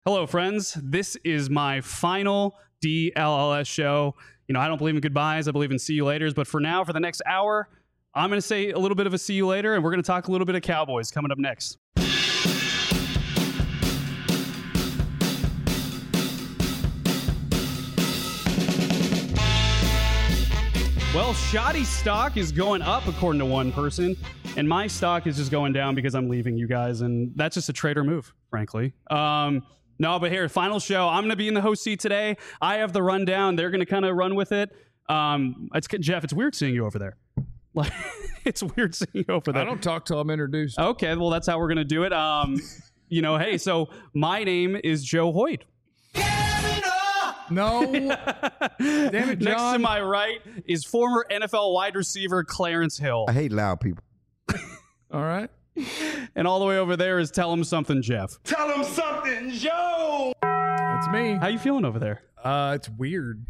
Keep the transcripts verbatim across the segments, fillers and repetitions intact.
Hello, friends. This is my final D L L S show. You know, I don't believe in goodbyes. I believe in see you laters. But for now, for the next hour, I'm going to say a little bit of a see you later, and we're going to talk a little bit of Cowboys coming up next. Well, Shoddy stock is going up, according to one person, and my stock is just going down because I'm leaving you guys, and that's just a trader move, frankly. Um, no, but here, final show. I'm going to be in the host seat today. I have the rundown. They're going to kind of run with it. Um, it's Jeff, it's weird seeing you over there. Like, it's weird seeing you over there. I don't talk till I'm introduced. Okay, well, that's how we're going to do it. Um, you know, hey, so my name is Joe Hoyt. No. Damn it, John. Next to my right is former N F L wide receiver Clarence Hill. I hate loud people. All right. And all the way over there is Tell Him Something Jeff. Tell him something, Joe! That's me. How you feeling over there? Uh, it's weird.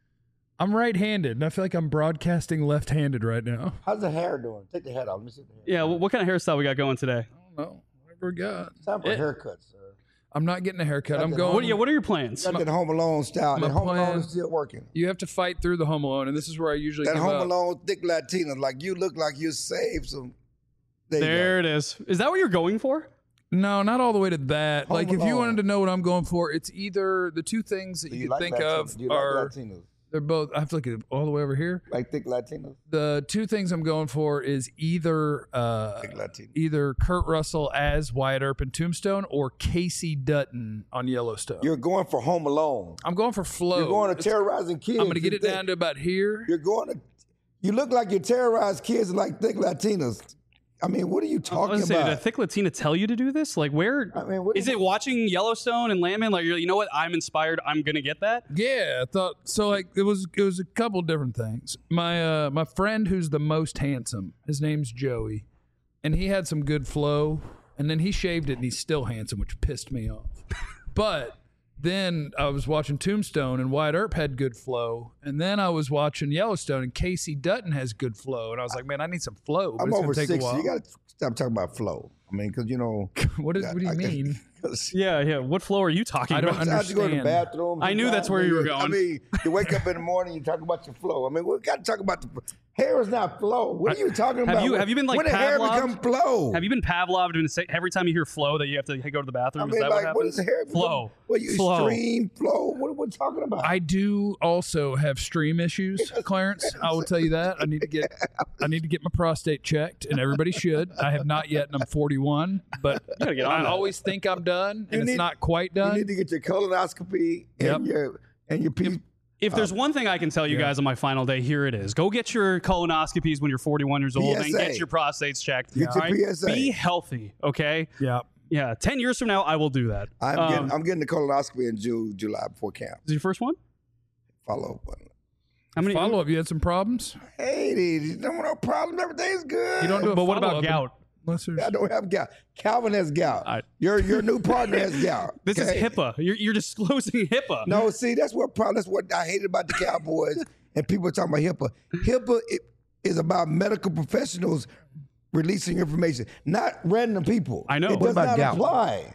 I'm right-handed, and I feel like I'm broadcasting left-handed right now. How's the hair doing? Take the head off. Let me see the hair. Yeah, well, what kind of hairstyle we got going today? I don't know. Whatever we got. It's time for It- a haircut, sir. I'm not getting a haircut. I'm What- going. What, yeah, what are your plans? Got that Home Alone style. my That Home plan- Alone is still working. You have to fight through the Home Alone, and this is where I usually That give Home up. Alone thick Latina, like you look like you saved some. There, you There it is. Is that what you're going for? No, not all the way to that. Home like, if you Alone. wanted to know what I'm going for, it's either the two things that go. Do you, you can like think Latinos? of Do you are like Latinos? they're both. I have to look at it all the way over here. Like thick Latinos? The two things I'm going for is either uh, Thick Latinos. either Kurt Russell as Wyatt Earp in Tombstone or Casey Dutton on Yellowstone. You're going for Home Alone. I'm going for flow. You're going to It's- terrorizing kids. I'm going to get You it think- down to about here. You're going to. You look like you terrorize kids like thick Latinos. I mean, what are you I talking was gonna say, about? did Thick Latina tell you to do this? Like, where I mean, what is it? Watching Yellowstone and Landman? Like, you're, you know what? I'm inspired. I'm gonna get that. Yeah, I thought so. Like it was, it was a couple different things. My uh, my friend who's the most handsome, his name's Joey, and he had some good flow, and then he shaved it, and he's still handsome, which pissed me off. But then I was watching Tombstone, and Wyatt Earp had good flow, and then I was watching Yellowstone, and Casey Dutton has good flow, and I was like, man, I need some flow. But I'm it's over gonna take sixty. a while. You got to stop talking about flow. I mean, because you know. what, is, what do you I- mean? Yeah, yeah. What flow are you talking I don't about? under- I have to go to the understand. bathroom. I knew that's where you were I going. mean, you wake up in the morning, you talk about your flow. I mean, we got to talk about the hair is not flow. What are you talking Have about? you- have you been, like, when did hair Pavloved? become flow? Have you been Pavloved and say every time you hear flow that you have to go to the I bathroom? mean, is that like, what what happens? is hair? Flow. What you Flow. extreme flow? What are we talking about? I do also have stream issues, Clarence. I will tell you that. I need to get I need to get my prostate checked, and everybody should. I have not yet, and I'm forty-one. But gotta get on I that. always think I'm done, and You it's need- not quite you done. need to get your colonoscopy and Yep. your and your piece. If there's one thing I can tell you yeah. guys on my final day, here it is. Go get your colonoscopies when you're forty-one years old and P S A. get your prostates checked. Get your all right? P S A. Be healthy, okay? yeah. Yeah, ten years from now, I will do that. I'm Um, getting I'm getting the colonoscopy in June, July before camp. Is it your first one? Follow up. How many? Follow up. You had some problems. Hey, you don't want no problem. Everything's good. You don't do a But what about follow-up gout? unless there's- I don't have gout. Calvin has gout. I- your your new partner has gout. This okay? is HIPAA. You're, you're disclosing HIPAA. No, see, that's what problem. That's what I hated about the Cowboys and people talking about HIPAA. HIPAA it, is about medical professionals releasing information, not random people. I know. It What does about not gout? apply.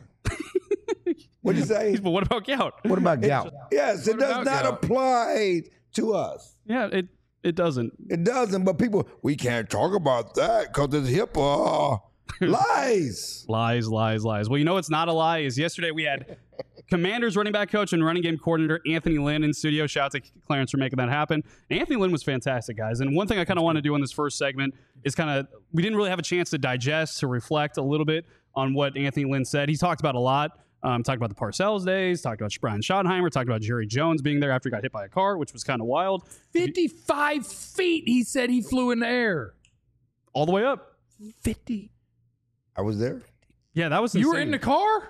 What do you say? But what about gout? What about gout? Yes, it What does about not gout? apply to us. Yeah, it it doesn't. It doesn't, but people, we can't talk about that because it's HIPAA. Lies. Lies, lies, lies. Well, you know what's not a lie is yesterday we had Commanders running back coach and running game coordinator Anthony Lynn in studio. Shout out to Clarence for making that happen. And Anthony Lynn was fantastic, guys. And one thing I kind of want to do in this first segment is kind of, we didn't really have a chance to digest, to reflect a little bit on what Anthony Lynn said. He talked about a lot. Um, talked about the Parcells days, talked about Brian Schottenheimer, talked about Jerry Jones being there after he got hit by a car, which was kind of wild. fifty-five feet. He said he flew in the air. All the way up. fifty. I was there. Yeah, that was You were insane. in the car?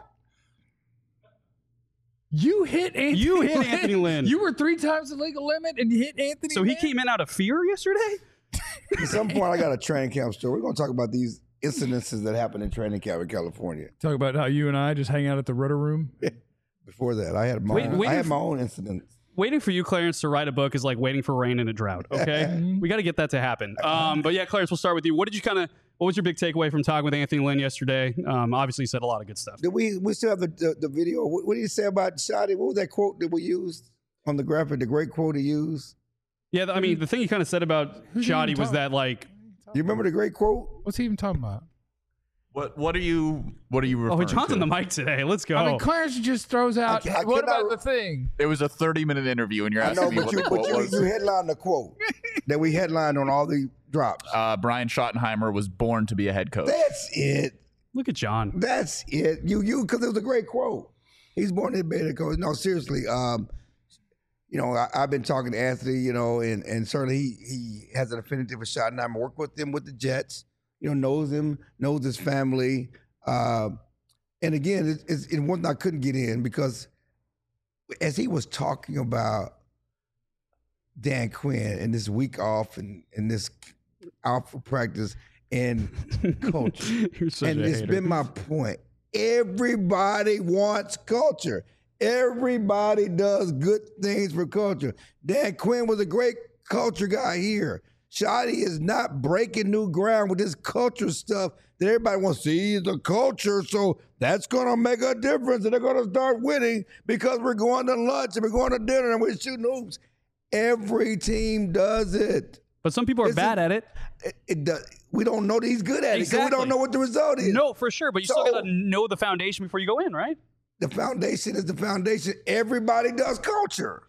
You hit Anthony You hit Lynn. Anthony Lynn. You were three times the legal limit and you hit Anthony So he Lynn? came in out of fear yesterday? At some point, I got a training camp story. We're going to talk about these incidences that happened in training camp in California. Talk about how you and I just hang out at the Rudder Room. Before that, I had my Wait- own, wait I had if- my own incidents. Waiting for you, Clarence, to write a book is like waiting for rain in a drought, okay? We got to get that to happen. Um, but yeah, Clarence, we'll start with you. What did you kind of, What was your big takeaway from talking with Anthony Lynn yesterday? Um, obviously, he said a lot of good stuff. Did we we still have the the, the video? What, what did he say about Shotty? What was that quote that we used on the graphic? The great quote he used. Yeah, I mean, the thing he kind of said about Shotty was that, like, you remember the great quote? What's he even talking about? What what are you what are you referring oh, John's to? on the mic today. Let's go. I mean, Clarence just throws out. I- I what about cannot- the thing? It was a thirty minute interview, and you're I asking know, me but what you the but quote you, was. you headlined the quote that we headlined on all the drops. Uh, Brian Schottenheimer was born to be a head coach. That's it. Look at John. That's it. You you because it was a great quote. He's born to be a coach. No, seriously. Um, you know, I, I've been talking to Anthony. You know, and and certainly he he has an affinity for Schottenheimer. Worked with him with the Jets. You know, knows him, knows his family. Uh, and again, it, it's it one I couldn't get in because as he was talking about Dan Quinn and this week off and, and this out for practice and culture. You're such And a it's hater. been my point. Everybody wants culture. Everybody does good things for culture. Dan Quinn was a great culture guy here. Shotty is not breaking new ground with this culture stuff that everybody wants to see the culture. So that's going to make a difference. And they're going to start winning because we're going to lunch and we're going to dinner and we're shooting hoops. Every team does it. But some people are This bad is- at it. It, it does. We don't know that he's good at it because we Exactly. don't know what the result is. No, for sure. But you So- still got to know the foundation before you go in, right? The foundation is the foundation. Everybody does culture.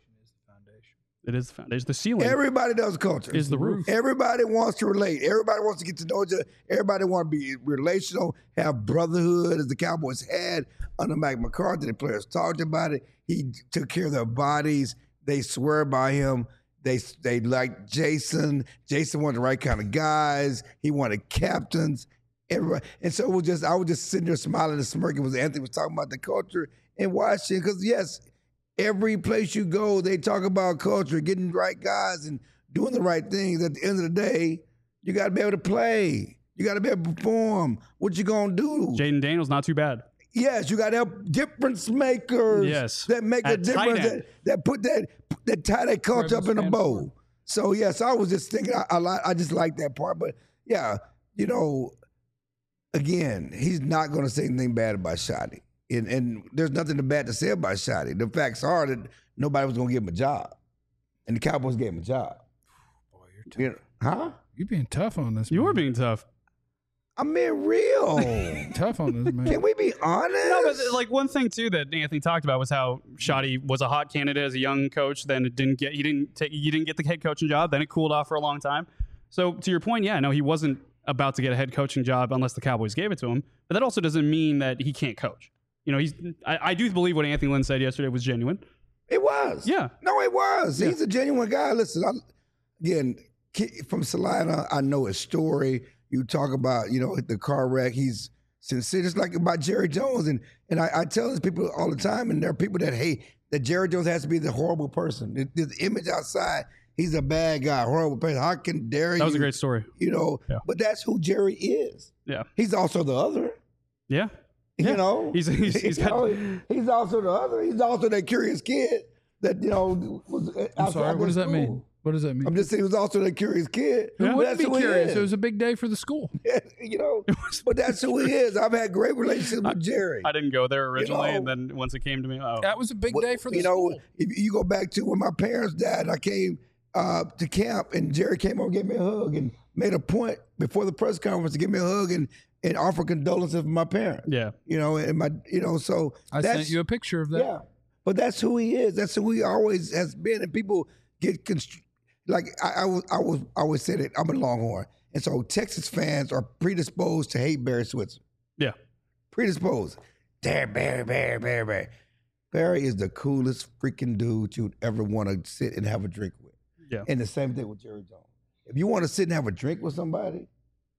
It is the foundation. The ceiling Everybody does culture. is the roof. Everybody wants to relate. Everybody wants to get to know each other. Everybody wants to be relational, have brotherhood, as the Cowboys had under Mike McCarthy. The players talked about it. He took care of their bodies. They swear by him. They they liked Jason. Jason wanted the right kind of guys. He wanted captains. Everybody. And so it was just I was just sitting there smiling and smirking. Was Anthony was talking about the culture and watching because yes. Every place you go, they talk about culture, getting the right guys and doing the right things. At the end of the day, you got to be able to play. You got to be able to perform. What you going to do? Jaden Daniels, not too bad. Yes, you got to have difference makers Yes. that make a At tight difference, end. that, that put that that tie that culture up in a bow. So, yes, I was just thinking, I, I, li- I just like that part. But, yeah, you know, again, he's not going to say anything bad about Shotty. And, and there's nothing bad to say about Shotty. The facts are that nobody was going to give him a job. And the Cowboys gave him a job. Boy, you're tough. You know, huh? You're being tough on this. You man. were being tough. I'm being real. tough on this man. Can we be honest? No, but like one thing too that Anthony talked about was how Shotty was a hot candidate as a young coach. Then it didn't get he didn't take you didn't get the head coaching job. Then it cooled off for a long time. So to your point, yeah, no, he wasn't about to get a head coaching job unless the Cowboys gave it to him. But that also doesn't mean that he can't coach. You know, he's. I, I do believe what Anthony Lynn said yesterday was genuine. It was. Yeah. No, it was. Yeah. He's a genuine guy. Listen, I, again, ki- from Salina, I know his story. You talk about, you know, the car wreck. He's sincere, just like about Jerry Jones. And and I, I tell these people all the time, and there are people that hate that Jerry Jones has to be the horrible person. The, the image outside, he's a bad guy, horrible person. How can dare you? That was a great story. You know, Yeah. but that's who Jerry is. Yeah. He's also the other. Yeah. You Yeah. know, He's- he's- he's You got- know, he's also the other. He's also that curious kid that you know was. I'm outside sorry. What their does that school. mean? What does that mean? I'm just saying he was also that curious kid. Who But wouldn't that's be who he curious? is. It was a big day for the school. you know, but that's who he is. I've had great relationships with Jerry. I didn't go there originally, know- and then once it came to me, oh, That was a big What- day for the you know, school. if you go back to when my parents died, I came uh, to camp and Jerry came over and gave me a hug and made a point before the press conference to give me a hug and, and offer condolences for my parents. yeah. You know, and my, you know, so I that's, sent you a picture of that. yeah, but that's who he is. That's who he always has been. And people get constr- like I, I was, I was, I always said it. I'm a Longhorn, and so Texas fans are predisposed to hate Barry Switzer. Yeah. Predisposed. There, Barry, Barry, Barry, Barry. Barry is the coolest freaking dude you'd ever want to sit and have a drink with. Yeah. And the same thing with Jerry Jones. If you want to sit and have a drink with somebody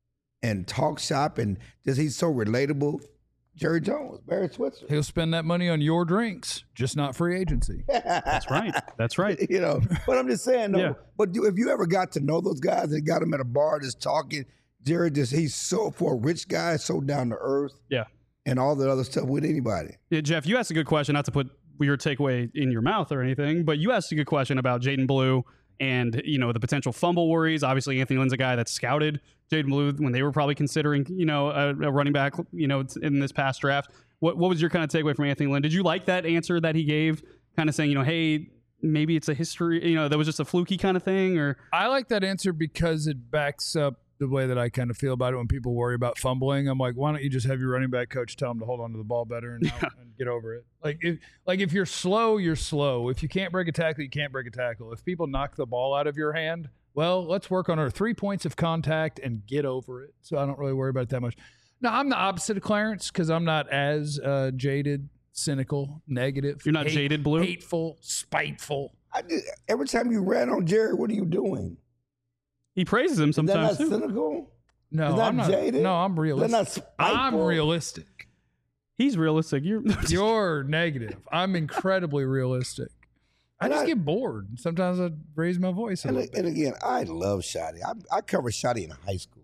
and talk shop and just he's so relatable, Jerry Jones, Barry Switzer. He'll spend that money on your drinks, just not free agency. That's right. That's right. You know, but I'm just saying, though. Yeah. But you, if you ever got to know those guys and got them at a bar just talking, Jerry just, he's so, for a rich guy, so down to earth Yeah. and all the other stuff with anybody. Yeah, Jeff, you asked a good question, not to put your takeaway in your mouth or anything, but you asked a good question about Jaden Blue and, you know, the potential fumble worries. Obviously, Anthony Lynn's a guy that scouted Jaden Blue when they were probably considering, you know, a, a running back, you know, in this past draft. What what was your kind of takeaway from Anthony Lynn? Did you like that answer that he gave, kind of saying, you know, hey, maybe it's a history, you know, that was just a fluky kind of thing? Or I like that answer because it backs up the way that I kind of feel about it when people worry about fumbling. I'm like, why don't you just have your running back coach tell him to hold on to the ball better and, yeah. and get over it? Like if, like if you're slow, you're slow. If you can't break a tackle, you can't break a tackle. If people knock the ball out of your hand, well, let's work on our three points of contact and get over it. So I don't really worry about it that much. No, I'm the opposite of Clarence because I'm not as uh, jaded, cynical, negative. You're not hate, jaded, Blue? Hateful, spiteful. I did, every time you ran on Jerry, what are you doing? He praises him sometimes Is that too. not cynical? No, Is that I'm not. jaded? No, I'm realistic. They're not spiteful. I'm realistic. He's realistic. You're You're negative. I'm incredibly realistic. I And just I- get bored. Sometimes I raise my voice a And, little bit. and again, I love Shotty. I, I covered Shotty in high school.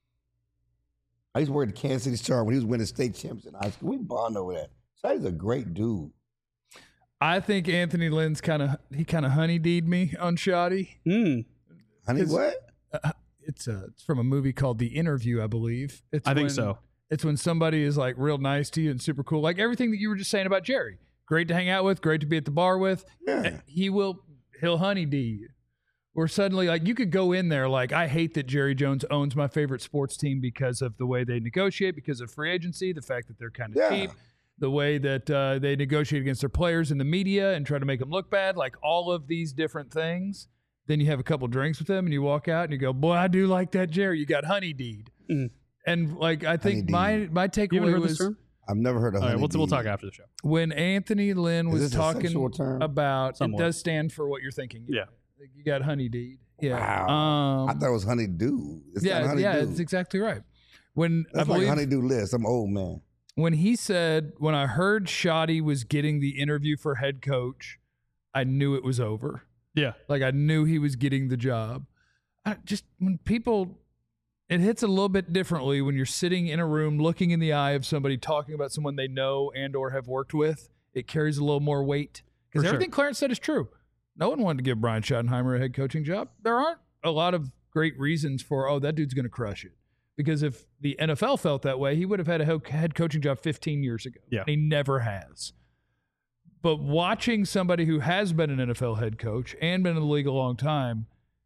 I used to work at the Kansas City Star when he was winning state champs in high school. We bond over that. Shotty's a great dude. I think Anthony Lynn's kind of he kind of honeydeed me on Shoddy. Mm, Honey, It's- what? Uh, it's uh, it's from a movie called The Interview, I believe. It's I think when- so. It's when somebody is like real nice to you and super cool, like everything that you were just saying about Jerry. Great to hang out with, great to be at the bar with. Yeah. He will he'll honeydee you. Or suddenly, like you could go in there like, I hate that Jerry Jones owns my favorite sports team because of the way they negotiate, because of free agency, the fact that they're kind of Yeah. cheap, the way that uh, they negotiate against their players in the media and try to make them look bad, like all of these different things. Then you have a couple drinks with them and you walk out and you go, boy, I do like that Jerry. You got honeydeed. Mm. And like I think my Honeydeed. my you haven't takeaway heard was this term? I've never heard of All right, we'll, honey we'll deed. talk after the show. when Anthony Lynn Is was this a talking sexual term? about Somewhat. it does stand for what you're thinking. Yeah. Like, you got honeydeed. Yeah. Wow. Um, I thought it was honeydew. It's not yeah, honeydew. yeah, it's exactly right. When That's I believe like honeydew list. I'm old man. when he said, when I heard Shoddy was getting the interview for head coach, I knew it was over. Yeah. Like I knew he was getting the job. I just when people, it hits a little bit differently when you're sitting in a room looking in the eye of somebody talking about someone they know and or have worked with. It carries a little more weight because For sure. everything Clarence said is true. No one wanted to give Brian Schottenheimer a head coaching job. There aren't a lot of great reasons for, oh, that dude's going to crush it. Because if the N F L felt that way, he would have had a head coaching job fifteen years ago. Yeah. And he never has. But watching somebody who has been an N F L head coach and been in the league a long time,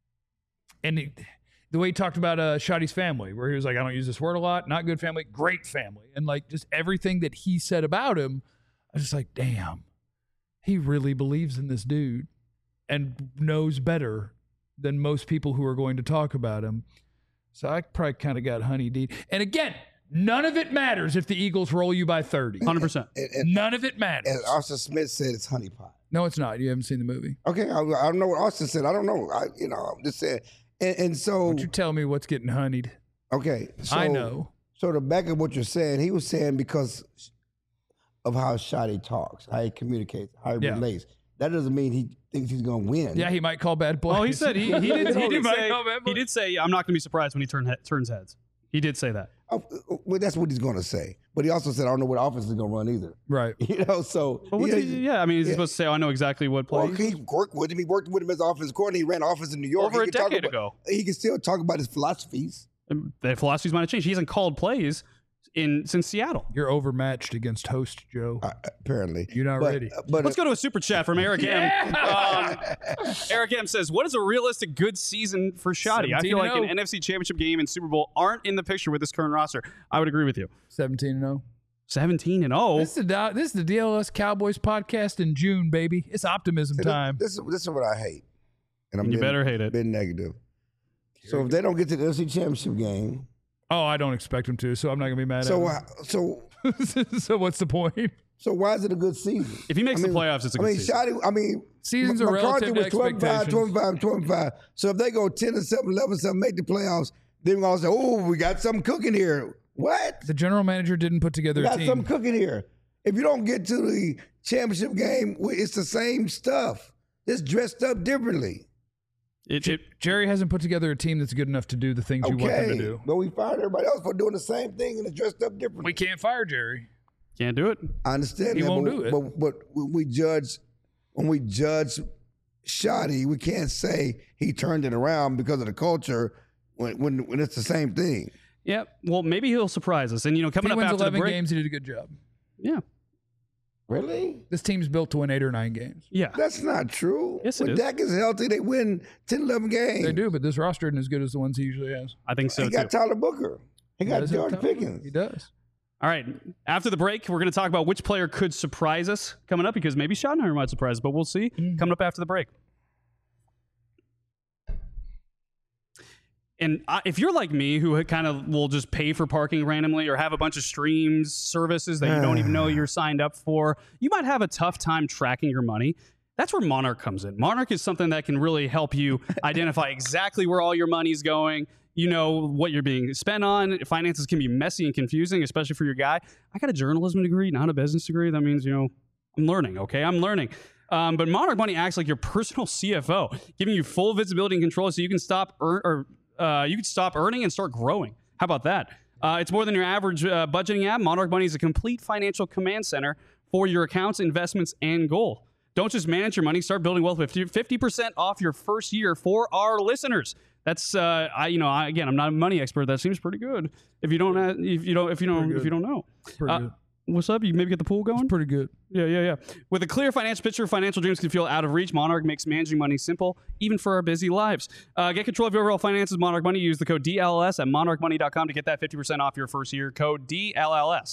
and he, the way he talked about uh, Shoddy's family, where he was like, I don't use this word a lot, not good family, great family. And like just everything that he said about him, I was just like, damn, he really believes in this dude and knows better than most people who are going to talk about him. So I probably kind of got honeydeed. And again, none of it matters if the Eagles roll you by thirty. one hundred percent. And, and, None of it matters. and Austin Smith said it's honeypot. No, it's not. You haven't seen the movie. Okay, I, I don't know what Austin said. I don't know. I, you know, I'm just saying. And, and so, Won't you tell me what's getting honeyed? okay, so, I know. So to back up what you're saying, he was saying because of how Shoddy talks, how he communicates, how he Yeah. relates. That doesn't mean he thinks he's going to win. Yeah, he might call bad plays. Oh, he said he, he did, he did might say, call bad he plays. did say, I'm not going to be surprised when he turn, he- turns heads. He did say that. Oh, well, that's what he's going to say. But he also said, I don't know what offense is going to run either. Right. You know, so But what's yeah, he, yeah, I mean, is he yeah. supposed to say, oh, I know exactly what Well, play? he worked with him. He worked with him as offensive coordinator. He ran offense in New York. Over He a can talk decade about- ago. He can still talk about his philosophies. The philosophies might have changed. He hasn't called plays in since Seattle. You're overmatched against host, Joe. Uh, apparently, You're not but, ready. But Let's go to a super chat from Eric M. Um, Eric M says, what is a realistic good season for Shoddy? I feel like an seventeen and oh. N F C championship game and Super Bowl aren't in the picture with this current roster. I would agree with you. seventeen and oh. seventeen and oh. This is the this is the D L S Cowboys podcast in June, baby. It's optimism See, time. This, this, is, this is what I hate. And I'm You being, better hate it. being negative. So if they don't get to the N F C championship game, Oh, I don't expect him to, so I'm not gonna be mad so at uh, so him. So what's the point? so why is it a good season? If he makes I mean, the playoffs, it's a I good mean, season. Shoddy, I mean, Seasons M- are McCarthy relative to was twenty-five, expectations. twenty-five, twenty-five. So if they go ten and seven, eleven, seven, make the playoffs, then we're going to say, oh, we got something cooking here. What? The general manager didn't put together We a got team. something cooking here. If you don't get to the championship game, we- it's the same stuff. It's dressed up differently. It, it, Jerry hasn't put together a team that's good enough to do the things you want them to Okay, do. but we fired everybody else for doing the same thing and it's dressed up differently. We can't fire Jerry. can't do it. I understand He that, won't but, do it. But, but when we judge, when we judge shoddy, we can't say he turned it around because of the culture when when, when it's the same thing. Yeah, well, maybe he'll surprise us. And, you know, If coming he up wins after eleven the break. games, he did a good job. Yeah. Really? This team's built to win eight or nine games. Yeah. That's not true. Yes, it when is. Dak is healthy, they win ten, eleven games. They do, but this roster isn't as good as the ones he usually has. I think so, He too. got Tyler Booker. He got does have George talent. Pickens. He does. All right. After the break, we're going to talk about which player could surprise us coming up because maybe Schottenheimer might surprise us, but we'll see. Mm-hmm. Coming up after the break. And I, if you're like me, who kind of will just pay for parking randomly or have a bunch of streams, services that you don't even know you're signed up for, you might have a tough time tracking your money. That's where Monarch comes in. Monarch is something that can really help you identify exactly where all your money's going. You know what you're being spent on. Finances can be messy and confusing, especially for your guy. I got a journalism degree, not a business degree. That means, you know, I'm learning, okay? I'm learning. Um, but Monarch Money acts like your personal C F O, giving you full visibility and control so you can stop earn or uh, you can stop earning and start growing. How about that? Uh, it's more than your average uh, budgeting app. Monarch Money is a complete financial command center for your accounts, investments, and goal. Don't just manage your money. Start building wealth with fifty percent off your first year for our listeners. That's uh, I you know I, again I'm not a money expert. That seems pretty good. If you don't have, if you don't if you don't if you don't know, Pretty uh, good. what's up? You maybe get the pool going. Pretty good. Yeah, yeah, yeah. With a clear financial picture, financial dreams can feel out of reach. Monarch makes managing money simple, even for our busy lives. Uh, get control of your overall finances. Monarch Money. Use the code D L L S at monarch money dot com to get that fifty percent off your first year. Code D L L S.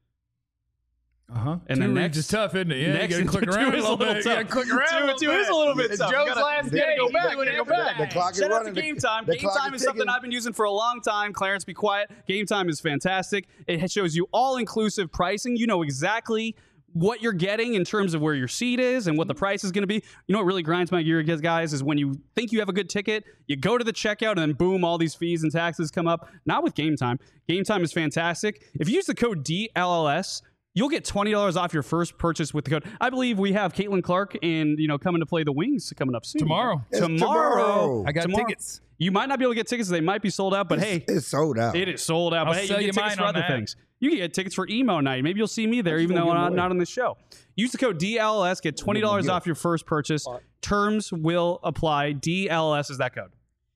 Uh huh. And then next is tough, isn't it? Yeah, next you gotta click two around a is little bit. You tough. gotta click around. Two- a little two is bit. a little bit It's tough. Joe's You gotta- last you day. gotta go You back. gotta You gotta go go back. back. The clock is Shout out to running. The- Game Time. the Game clock Time is is something ticking. I've been using for a long time. Clarence, be quiet. Game Time is fantastic. It shows you all-inclusive pricing. You know exactly what you're getting in terms of where your seat is and what the price is going to be. You know what really grinds my gear, guys, is when you think you have a good ticket, you go to the checkout, and then boom, all these fees and taxes come up. Not with Game Time. Game Time is fantastic. If you use the code D L L S, you'll get twenty dollars off your first purchase with the code. I believe we have Caitlin Clark and, you know, coming to play the Wings coming up soon. Tomorrow. It's Tomorrow. tomorrow. I got Tomorrow. tickets. You might not be able to get tickets. They might be sold out, but hey, It's sold out. it is sold out. I'll But hey, sell you you get tickets mine for on other that. things. You can get tickets for emo night. Maybe you'll see me there, even though gonna give I'm away. not on the show. Use the code D L L S. Get twenty dollars off your first purchase. Terms will apply. D L L S is that code.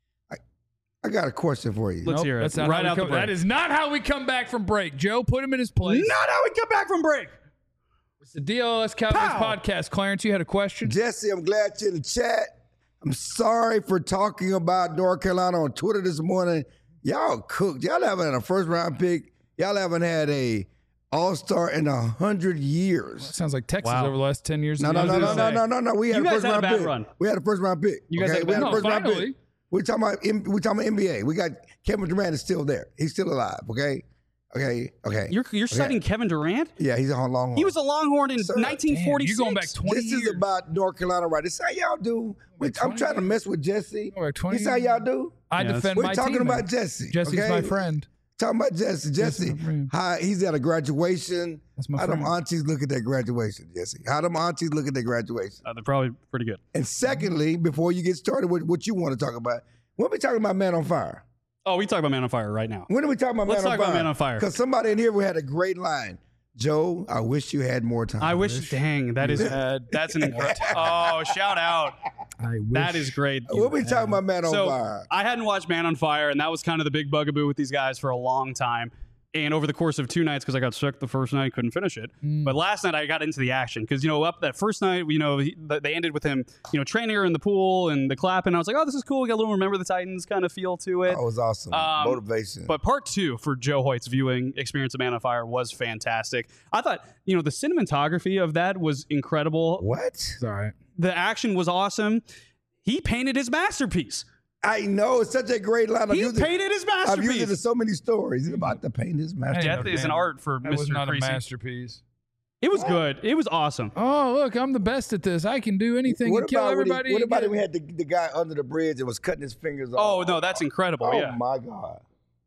I got a question for you. Let's Nope, hear it. that's not Right how we out the come- break. That is not how we come back from break. Joe, put him in his place. Not how we come back from break. It's the D L L S Cowboys Pow! podcast. Clarence, you had a question? Jesse, I'm glad you're in the chat. I'm sorry for talking about North Carolina on Twitter this morning. Y'all cooked. Y'all haven't had a first round pick. Y'all haven't had a all-star in a hundred years. Sounds like Texas Wow. over the last ten years. No, of no, the no, N no, F L. no, no, no, no. We had You a guys first had a round bad pick. run. We had a first round pick. You guys okay? had a we had bad a first run. round Finally. pick. We're talking about M- we're talking about N B A. We got Kevin Durant is still there. He's still alive. Okay, okay, okay. You're you're citing Kevin Durant? yeah, he's on long. He was a Longhorn in Sir, nineteen forty-six. Damn, you're going back twenty This years. is about North Carolina, right? This is how y'all do. We- Wait, I'm twenty trying to mess with Jesse. Oh, wait, twenty This is how y'all do. I Yeah, defend We're my talking team. about man. Jesse. Jesse's okay? my friend. Talking about Jesse. Jesse, my friend. how, he's at a graduation. That's my How them friend. aunties look at their graduation, Jesse? How them aunties look at their graduation? Uh, they're probably pretty good. And secondly, before you get started with what you want to talk about, when are we talking about Man on Fire? Oh, we talk about Man on Fire right now. When are we talking about Let's Man on talk Fire? about Man on Fire. Because somebody in here had a great line. Joe, I wish you had more time. I wish, dang, that is that's an incredible. Oh, shout out. I wish. That is great. When are we talking about Man on So Fire? I hadn't watched Man on Fire, and that was kind of the big bugaboo with these guys for a long time. And over the course of two nights, because I got sick the first night, couldn't finish it. But last night I got into the action because, you know, up that first night, you know, he, they ended with him, you know, training her in the pool and the clapping. I was like, oh, this is cool. We got a little Remember the Titans kind of feel to it. That was awesome. Um, Motivation. But part two for Joe Hoyt's viewing experience of Man on Fire was fantastic. I thought, you know, the cinematography of that was incredible. what? It's all right. The action was awesome. He painted his masterpiece. I know. It's such a great line. I've He used it- painted his I've used it in masterpiece. so many stories. He's about to paint his masterpiece. Death is an art for That was Mister not Creasy. a masterpiece. It was good. It was awesome. Oh, look, I'm the best at this. I can do anything What and kill about when he- everybody. what and about get- if we had the, the guy under the bridge and was cutting his fingers Oh off? no, that's incredible. Oh yeah. my God.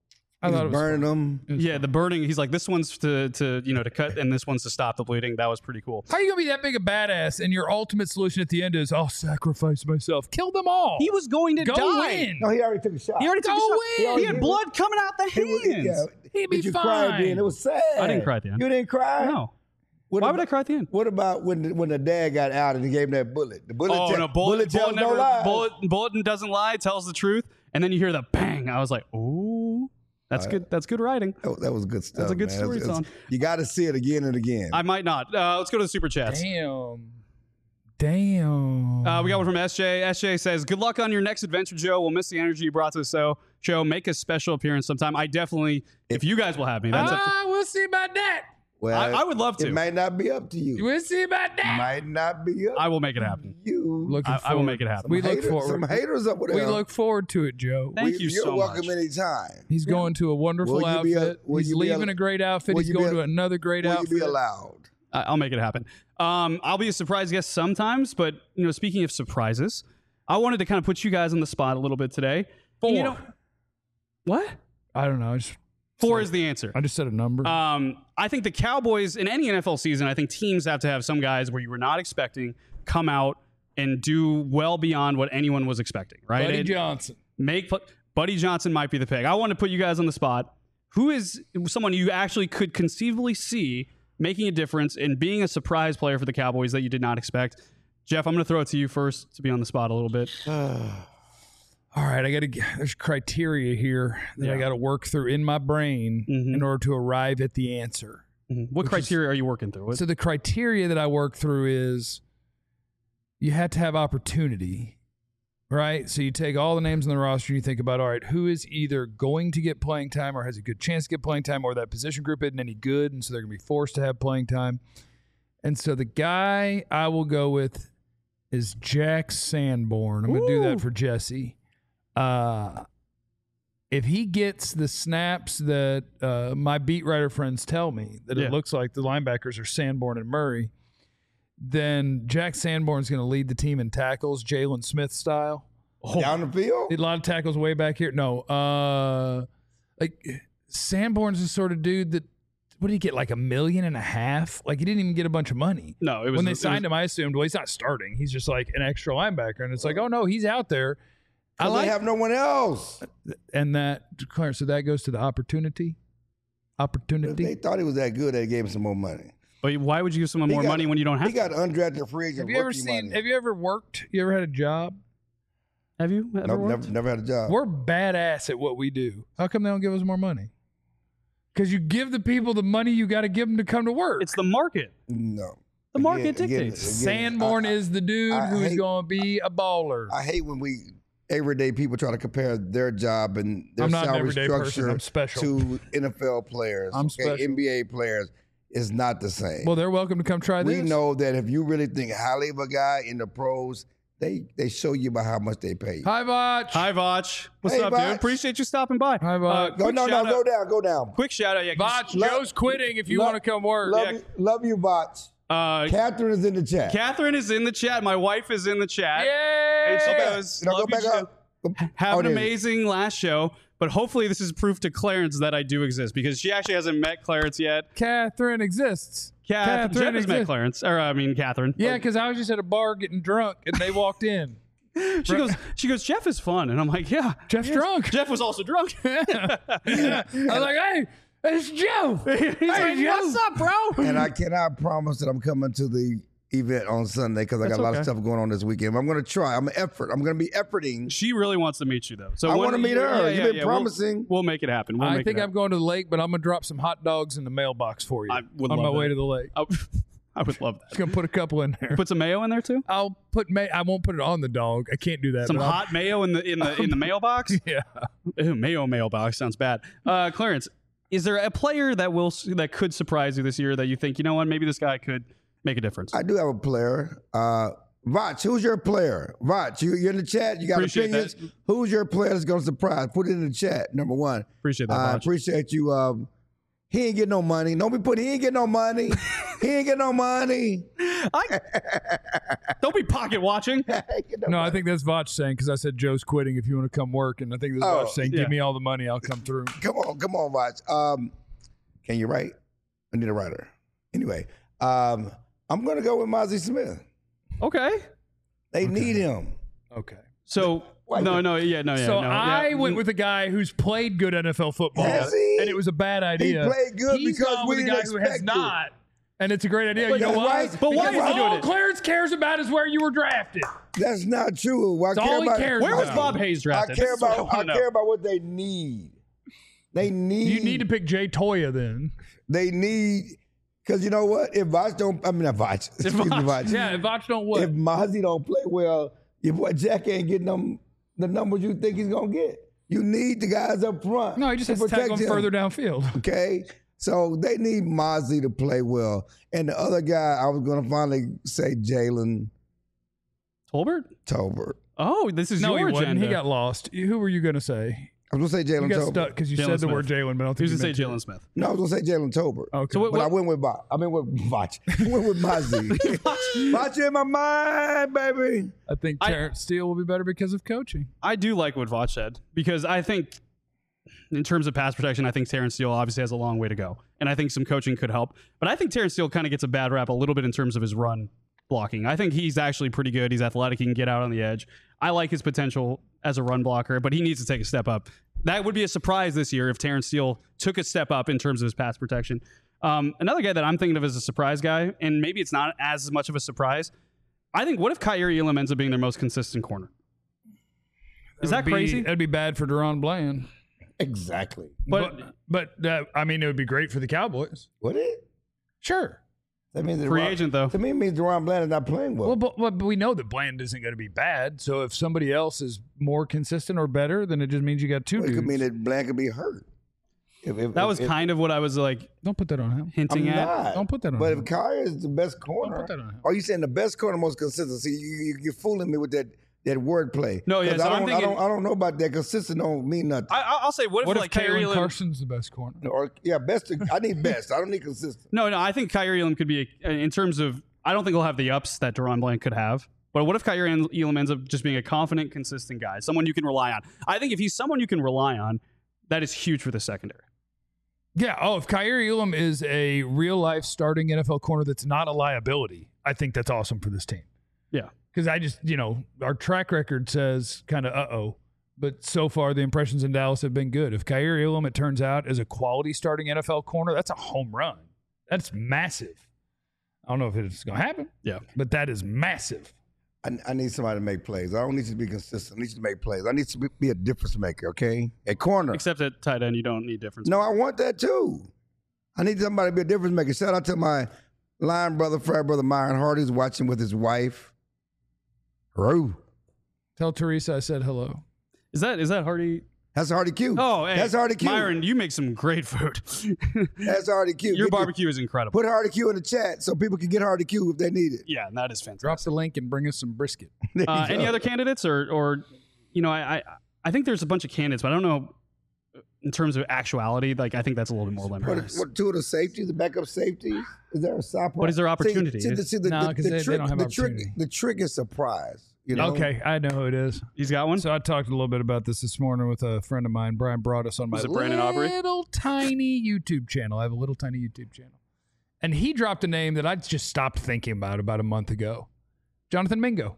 I He's thought it was burning them. Yeah, the burning. He's like, this one's to to you know to cut, and this one's to stop the bleeding. That was pretty cool. How are you gonna be that big a badass and your ultimate solution at the end is I'll sacrifice myself, kill them all? He was going to go die. win. No, he already took a shot. He already took Go a shot. win. He had blood coming out the He was- hands. yeah. He'd be Did you cry at the fine. end? It was sad. I didn't cry at the end. You didn't cry? No, What Why about, would I cry at the end? What about when the, when the dad got out and he gave him that bullet? The bullet, Oh te- no, bullet, tells bullet, never, no lies. bullet, bulletin doesn't lie, tells the truth, and then you hear the bang. I was like, ooh, that's good. That's good writing. That, that was good stuff. a good man. story, It's- it's- Son. You got to see it again and again. I might not. Uh, let's go to the super chats. Damn. Damn. Uh, we got one from S J. S J says, "Good luck on your next adventure, Joe. We'll miss the energy you brought to the show. Show make a special appearance sometime. I definitely, if you guys will have me, that's up to, ah, we'll see about that. well, I, I would love to. It might not be up to you. We'll see about that. Might not be up I will make it happen. to you. Looking I, I will forward. make it happen. We Some look haters, forward. Some haters up with We them. look forward to it, Joe. Thank We- you You're so welcome much. anytime. He's going to a wonderful Will you be a- outfit. will He's you be a- leaving a great outfit. will He's you going be a- to another great Will you outfit. be allowed? I- I'll make it happen. Um, I'll be a surprise guest sometimes, but you know, speaking of surprises, I wanted to kind of put you guys on the spot a little bit today. Four. You know, what? I don't know. I just, Four is the answer. I just said a number. Um, I think the Cowboys in any N F L season, I think teams have to have some guys where you were not expecting come out and do well beyond what anyone was expecting. Right? Buddy It- Johnson. Make Buddy Johnson might be the pick. I want to put you guys on the spot. Who is someone you actually could conceivably see making a difference and being a surprise player for the Cowboys that you did not expect? Jeff, I'm going to throw it to you first to be on the spot a little bit. All right, I got to. There's criteria here that I Yeah. got to work through in my brain Mhm. in order to arrive at the answer. Mhm. What criteria are you working through? What- So the criteria that I work through is you have to have opportunity, right? So you take all the names on the roster and you think about, all right, who is either going to get playing time or has a good chance to get playing time, or that position group isn't any good, and so they're going to be forced to have playing time. And so the guy I will go with is Jack Sanborn. I'm going to do Ooh. that for Jesse. Uh, if he gets the snaps that uh, my beat writer friends tell me that Yeah. it looks like the linebackers are Sanborn and Murray, then Jack Sanborn's going to lead the team in tackles, Jalen Smith style. Down the field? Did a lot of tackles way back here. No, uh, like Sanborn's the sort of dude that, what did he get, like a million and a half? Like he didn't even get a bunch of money. no, it was When they it was- signed him, I assumed, well, he's not starting. He's just like an extra linebacker. And it's like, oh, no, he's out there. I 'Cause like they have no one else. and that, Clarence, so that goes to the opportunity. If Opportunity. they thought he was that good, they gave him some more money. But why would you give someone He more got- money when you don't have He got undrafted free agent Have you ever rookie seen, money. have you ever worked? You ever had a job? Have you ever No, worked? never, never had a job. We're badass at what we do. How come they don't give us more money? Because you give the people the money you got to give them to come to work. It's the market. No. The market Again- again- dictates. again, Sanborn I- is the dude I who's hate- going to be a baller. I hate when we everyday people try to compare their job and their I'm not an salary everyday person. structure I'm special. to N F L players. I'm okay? special. N B A players is not the same. well, they're welcome to come try we this. know that if you really think highly of a guy in the pros, they they show you by how much they pay you. Hi, Vach. Hi, Vach. What's Hey, up, Vach. dude? Appreciate you stopping by. Hi, Vach. Go quick no no shout go out- down go down. Quick shout out. Yeah, 'cause- Vach, Love- Joe's quitting if you love- want to come work. Love Yeah. you, love you, Bots. Uh, Catherine is in the chat. Catherine is in the chat. My wife is in the chat. Yay! And she Go back. goes, You know, go "Love you, back Joe. up. Go- Have oh, an there it is. amazing last show." But hopefully this is proof to Clarence that I do exist, because she actually hasn't met Clarence yet. Catherine exists. Kath, Catherine Jeff has met exists. Clarence, or I mean Catherine. Yeah, because I was just at a bar getting drunk and they walked in. She goes, she goes, Jeff is fun, and I'm like, yeah, Jeff's yes. drunk. Jeff was also drunk. I was like, hey, it's Joe. He's like, Joe. what's up, bro? And I cannot promise that I'm coming to the event on Sunday because I got That's a lot okay. of stuff going on this weekend. But I'm going to try. I'm an effort. I'm going to be efforting. She really wants to meet you, though. So I when- wanna meet her. yeah, You've yeah, been yeah, we'll- promising. We'll, make it happen. We'll I make think it I'm happen. going to the lake, but I'm going to drop some hot dogs in the mailbox for you I would on my love way that. to the lake. I, I would love Just that. going to put a couple in there. Put some mayo in there too. I'll put may- I won't put it on the dog. I can't do that. Some but I'll- hot mayo in the in the in the mailbox. Yeah. Ew, mayo mailbox sounds bad. Uh, Clarence, is there a player that will that could surprise you this year that you think, you know what, maybe this guy could make a difference? I do have a player. Uh, Vach, who's your player? Vach, you, you're in the chat. You got Appreciate opinions. that. Who's your player that's going to surprise? Put it in the chat, number one. Appreciate that, I Vach. appreciate you. Um, he ain't getting no money. Don't be putting, he ain't getting no money. he ain't getting no money. I, don't be pocket watching. He ain't getting No, I money. think that's Vach saying because I said Joe's quitting if you want to come work. And I think that's Oh, Vach saying, yeah. give me all the money, I'll come through. Come on, come on, Vach. Um, can you write? I need a writer. Anyway, um, I'm going to go with Mozzie Smith. Okay. They need him. Okay. So Why no, you- no, yeah, no, yeah. so no, I yeah. went with a guy who's played good N F L football, Has he? and it was a bad He idea. played good He's because gone we with a didn't guy who has expect it. not, And it's a great idea. You But know that's why? right. But why Because is he doing all it? Clarence cares about is where you were drafted. That's not true. What I That's care all he about, cares Where was about. Bob Hayes I drafted? care This is what about. I, wanna know. care about what they need. They need. You need to pick Jay Toya then. They need because you know what? If Voch don't, I mean not Voch. Excuse me, Voch. Yeah, if Voch don't what? If Mozzie don't play well, your boy Jack ain't getting them the numbers you think he's gonna get. You need the guys up front. no, he just to has to tag protect him him, further downfield. Okay, so they need Mozzie to play well, and the other guy I was gonna finally say Jalen Tolbert? Tolbert. Oh, this is No, he your wasn't. agenda. He got lost. Who were you going to say? I was gonna say You Jalen got Tolbert. stuck because you Jalen said the Smith. word Jalen, but I don't He think was you going to say meant Jalen Smith. No, I was gonna say Jalen Tolbert. Okay. So what, But I what, went with Voch. I mean with Voch. I went with Mozzie. Voch in my mind, baby. I think I- Terrence Steele will be better because of coaching. I do like what Voch said because I think in terms of pass protection, I think Terrence Steele obviously has a long way to go. And I think some coaching could help. But I think Terrence Steele kind of gets a bad rap a little bit in terms of his run blocking. I think he's actually pretty good. He's athletic. He can get out on the edge. I like his potential as a run blocker, but he needs to take a step up. That would be a surprise this year if Terrence Steele took a step up in terms of his pass protection. Um, another guy that I'm thinking of as a surprise guy, and maybe it's not as much of a surprise, I think, what if Kyrie Elam ends up being their most consistent corner? Is that Would be- crazy? That'd be bad for Deron Bland. Exactly. But, But, but uh, I mean, it would be great for the Cowboys. Would it? Sure. That means that free Deron- agent, though. To me, it means Deron Bland is not playing well. Well, but, but but we know that Bland isn't going to be bad. So if somebody else is more consistent or better, then it just means you got two it dudes. could mean that Bland could be hurt. If, if, That if- was if- kind of what I was like Don't put that on him. hinting I'm at. not. Don't put that on But him. if Kyrie is the best corner, put that on him. are you saying the best corner, most consistent? See, you, you, you're fooling me with that that wordplay. No, yeah, 'Cause so I don't, I'm I thinking- don't, I don't know about that. Consistent don't mean nothing. I, I- I'll say, what if, What if like Kyrie Kalen Elam? Carson's the best corner? or yeah, best. I need best. I don't need consistent. No, no, I think Kyrie Elam could be a, in terms of. I don't think he'll have the ups that Deron Bland could have. But what if Kyrie Elam ends up just being a confident, consistent guy, someone you can rely on? I think if he's someone you can rely on, that is huge for the secondary. Yeah. Oh, if Kyrie Elam is a real life starting N F L corner that's not a liability, I think that's awesome for this team. Yeah. Because I just, you know, our track record says kind of uh oh. But so far, the impressions in Dallas have been good. If Kyrie Elam, it turns out, is a quality starting N F L corner, that's a home run. That's massive. I don't know if it's going to happen. Yeah. But that is massive. I, I need somebody to make plays. I don't need you to be consistent. I need you to make plays. I need to be, be a difference maker. Okay, at corner. Except at tight end, you don't need difference. No, I want that too. I need somebody to be a difference maker. Shout out to my line brother, frat brother Myron Hardy's watching with his wife. Roo. Tell Teresa I said hello. Is that is that Hardy? That's Hardy Q. Oh, hey, that's Hardy Q. Myron, you make some great food. That's Hardy Q. Your Get barbecue is incredible. Put Hardy Q in the chat so people can get Hardy Q if they need it. Yeah, that is fantastic. Drop the link and bring us some brisket. There you Uh, go. any other candidates, or or you know, I, I I think there's a bunch of candidates, but I don't know in terms of actuality. Like I think that's a little bit more What, limited. what, two of the safeties, the backup safeties? Is there a side What is their opportunity? See, see, the, see, the, No, the, 'cause the they- they trick, don't have the trick, opportunity. the trick is surprise. You know? Okay, I know who it is. He's got one. So I talked a little bit about this this morning with a friend of mine. Brian brought us on my Was it Brandon Aubrey? little tiny YouTube channel. I have a little tiny YouTube channel. And he dropped a name that I just stopped thinking about about a month ago. Jonathan Mingo.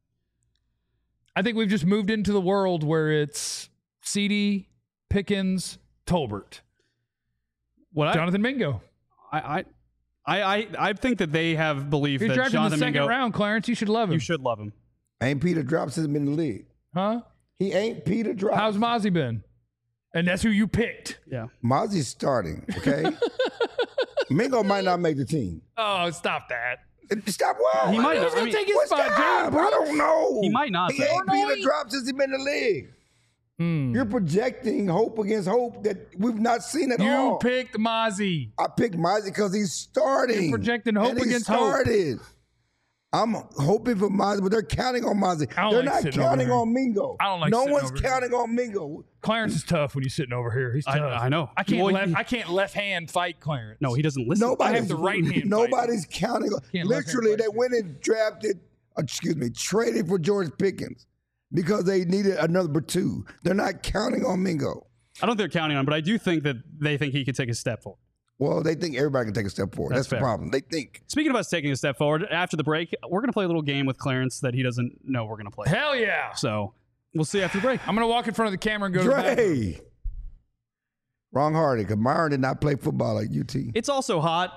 I think we've just moved into the world where it's C D, Pickens, Tolbert. What I, Jonathan Mingo. I, I I I I think that they have belief You're that drafted in the Jonathan second Mingo. round, Clarence. You should love him. You should love him. Ain't Peter Drops has been in the league. Huh? He ain't Peter Drops. How's Mozzie been? And that's who you picked. Yeah. Mozzie's starting, okay? Mingo might not make the team. Oh, stop that. Stop what? He might Who's not. I going mean, to take his What's spot? that? Jalen I don't know. He might not, He though. ain't Peter Drops since he been in the league. Hmm. You're projecting hope against hope that we've not seen at You all. picked Mozzie. I picked Mozzie because he's starting. You're projecting hope and he against hope. started. I'm hoping for Mozzie, but they're counting on Mozzie. I don't They're like not sitting over counting here. on Mingo. I don't like No sitting one's over here. counting on Mingo. Clarence is tough when he's sitting over here. He's I- tough. I know. I can't Well, left. he- I can't left hand fight Clarence. No, he doesn't listen. Nobody's, I have the right hand Nobody's counting on. Can't left hand Literally, fight they you. went and drafted, excuse me, traded for George Pickens because they needed another number two. They're not counting on Mingo. I don't think they're counting on him, but I do think that they think he could take a step forward. Well, they think everybody can take a step forward. That's That's, the fair. problem. They think. Speaking of us taking a step forward, after the break, we're going to play a little game with Clarence that he doesn't know we're going to play. Hell yeah! So we'll see after the break. I'm gonna walk in front of the camera and go to the bathroom. Dre. Wrong Hardy, because Myron did not play football at U T. It's also hot.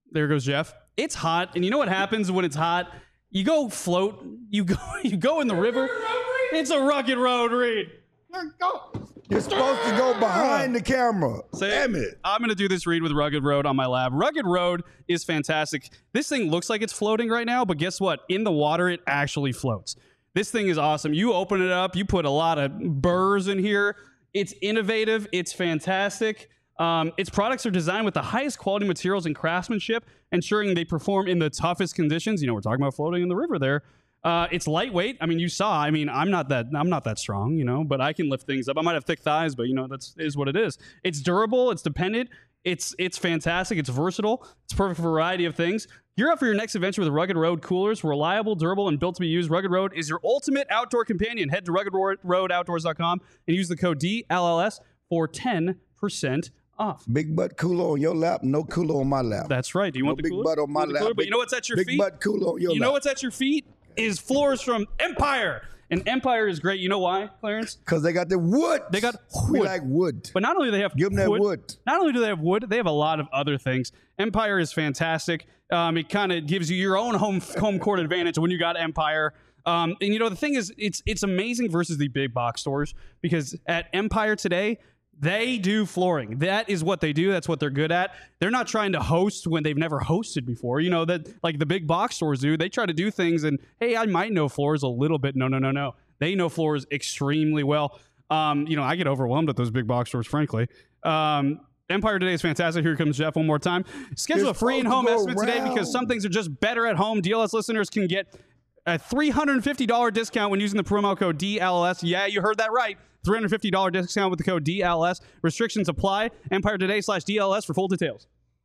There goes Jeff. It's hot, and you know what happens when it's hot? You go float. You go. You go in the river. It's a rugged road, Reed. You're supposed to go behind the camera. Say, Damn it. I'm going to do this read with Rugged Road on my lab. Rugged Road is fantastic. This thing looks like it's floating right now, but guess what? In the water, it actually floats. This thing is awesome. You open it up. You put a lot of burrs in here. It's innovative. It's fantastic. Um, its products are designed with the highest quality materials and craftsmanship, ensuring they perform in the toughest conditions. You know, we're talking about floating in the river there. Uh, it's lightweight. I mean, you saw. I mean, I'm not that. I'm not that strong, you know, but I can lift things up. I might have thick thighs, but you know, that's is what it is. It's durable. It's dependent. It's it's fantastic. It's versatile. It's perfect for a variety of things. Gear up for your next adventure with Rugged Road coolers. Reliable, durable, and built to be used. Rugged Road is your ultimate outdoor companion. Head to rugged road outdoors dot com and use the code D L L S for ten percent off. Big butt cooler on your lap, no cooler on my lap. That's right. Do you no want the big cooler? butt on my You want the lap. cooler? But Big- you know what's at your big feet? butt cooler on your You know lap. what's at your feet? Is floors from Empire. And Empire is great. You know why, Clarence? Because they got the wood. They got We wood. like wood. But not only do they have Give them that wood. Not only do they have wood, they have a lot of other things. Empire is fantastic. Um, it kind of gives you your own home home court advantage when you got Empire. Um, and you know the thing is, it's it's amazing versus the big box stores because at Empire today, they do flooring. That is what they do. That's what they're good at. They're not trying to host when they've never hosted before. You know, that like the big box stores do. They try to do things and, hey, I might know floors a little bit. No, no, no, no. They know floors extremely well. Um, you know, I get overwhelmed at those big box stores, frankly. Um, Empire today is fantastic. Here comes Jeff one more time. Schedule You're a free supposed in-home to go estimate today because around. some things are just better at home. D L S listeners can get a three hundred fifty dollars discount when using the promo code D L L S. Yeah, you heard that right. three hundred fifty dollars discount with the code D L S. Restrictions apply. Empire Today slash D L S for full details.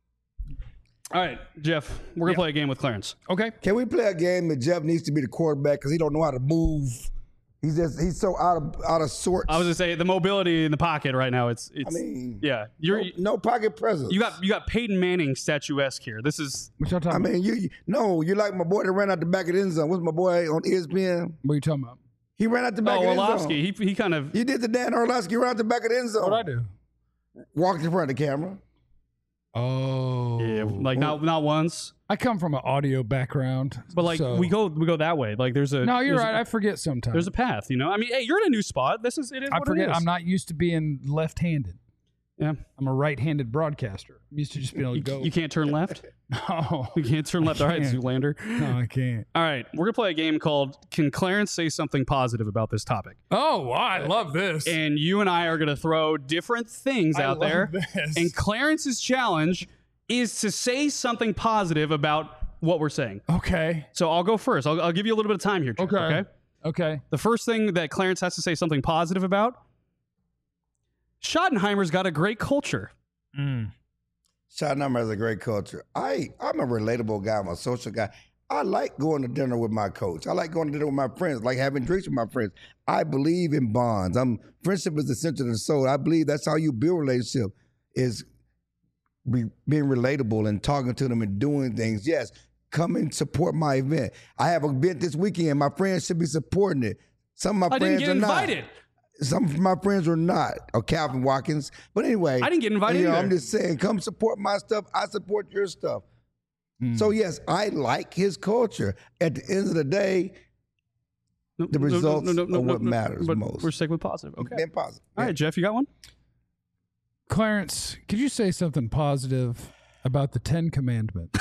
All right, Jeff, we're going to play a game with Clarence. Okay. Can we play a game that Jeff needs to be the quarterback because he don't know how to move? He's just he's so out of out of sorts. I was going to say the mobility in the pocket right now. It's it's I mean, yeah. You're no, no pocket presence. you got you got Peyton Manning statuesque here. This is What y'all I talking about? mean, you, you no, you like my boy that ran out the back of the end zone. What's my boy on E S P N? What are you talking about? He ran out the back oh of the end zone. Orlovsky. He he kind of He did the Dan Orlovsky ran out the back of the end zone. What'd I do? Walked in front of the camera. Oh. yeah, like not not once, I come from an audio background. but like so- we go we go that way. Like there's a No, you're there's right. A, I forget sometimes. there's a path, you know. I mean, hey, you're in a new spot. This is it is. I what forget. It is. I'm not used to being left-handed. Yeah, I'm a right-handed broadcaster. I'm used to just being able to you, go. you can't turn left. No, You can't turn left. All right, can't. Zoolander. no, I can't. All right, we're gonna play a game called "Can Clarence Say Something Positive About This Topic?" Oh, wow, I love this. And you and I are gonna throw different things I out love there, this. and Clarence's challenge is to say something positive about what we're saying. Okay. So I'll go first. I'll, I'll give you a little bit of time here, Jeff, Okay. okay? Okay. The first thing that Clarence has to say something positive about, Schottenheimer's got a great culture. Mm. Schottenheimer has a great culture. I, I'm a relatable guy. I'm a social guy. I like going to dinner with my coach. I like going to dinner with my friends, like having drinks with my friends. I believe in bonds. I'm friendship is essential to the soul. I believe that's how you build relationship is be, being relatable and talking to them and doing things. Yes, come and support my event. I have an event this weekend. My friends should be supporting it. Some of my I didn't friends get are invited. not. Some of my friends are not, or Calvin Watkins. But anyway, I didn't get invited you know, either. I'm just saying, come support my stuff. I support your stuff. So yes, I like his culture. At the end of the day, No, the no, no, results no, no, no, are no, what no, matters but most. We're sticking with positive. Okay. being positive. All right, Jeff, you got one? Clarence, could you say something positive about the Ten Commandments?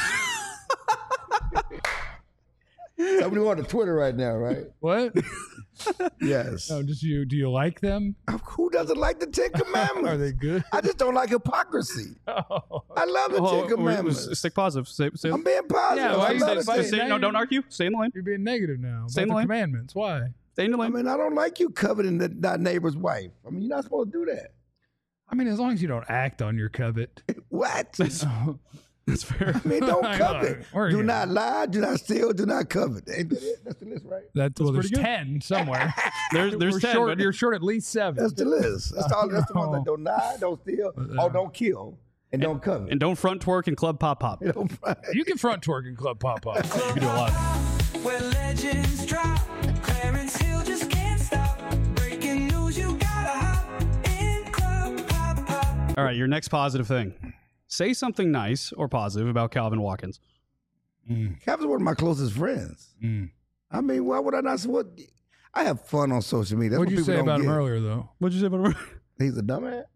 Somebody on the Twitter right now, right? What? Yes. Oh, just you? Do you like them? Who doesn't like the Ten Commandments? Are they good? I just don't like hypocrisy. Oh. I love the Oh, Ten we're- we're- Commandments. Stick positive. Say, say, I'm being positive. Yeah, why I you love say- the why Ten- you stay, no, don't argue. Stay in the lane. You're being negative now. Stay in about the the lane. commandments. Why? Stay in the I lane. mean, I don't like you coveting the, that neighbor's wife. I mean, you're not supposed to do that. I mean, as long as you don't act on your covet. What? That's fair. I mean, don't I know. covet. We're Do here. not lie. Do not steal. Do not covet. Ain't that it? That's the list, right? That's, well, there's pretty good. ten somewhere. There's there's We're ten. short, but you're short at least seven. That's the list. That's all. That's the ones that don't lie, don't steal, or don't kill, and don't covet. and don't front twerk and club pop pop. You know, You can front twerk in Club Pop Pop. You can do a lot. Where legends drop, Clarence Hill just can't stop. Breaking news, you gotta hop in Club Pop Pop. All right, your next positive thing. say something nice or positive about Calvin Watkins. Calvin's one of my closest friends. Mm. I mean, why would I not? What? I have fun on social media. That's What'd what you people say don't about him get. earlier, though? What'd you say about him? He's a dumbass.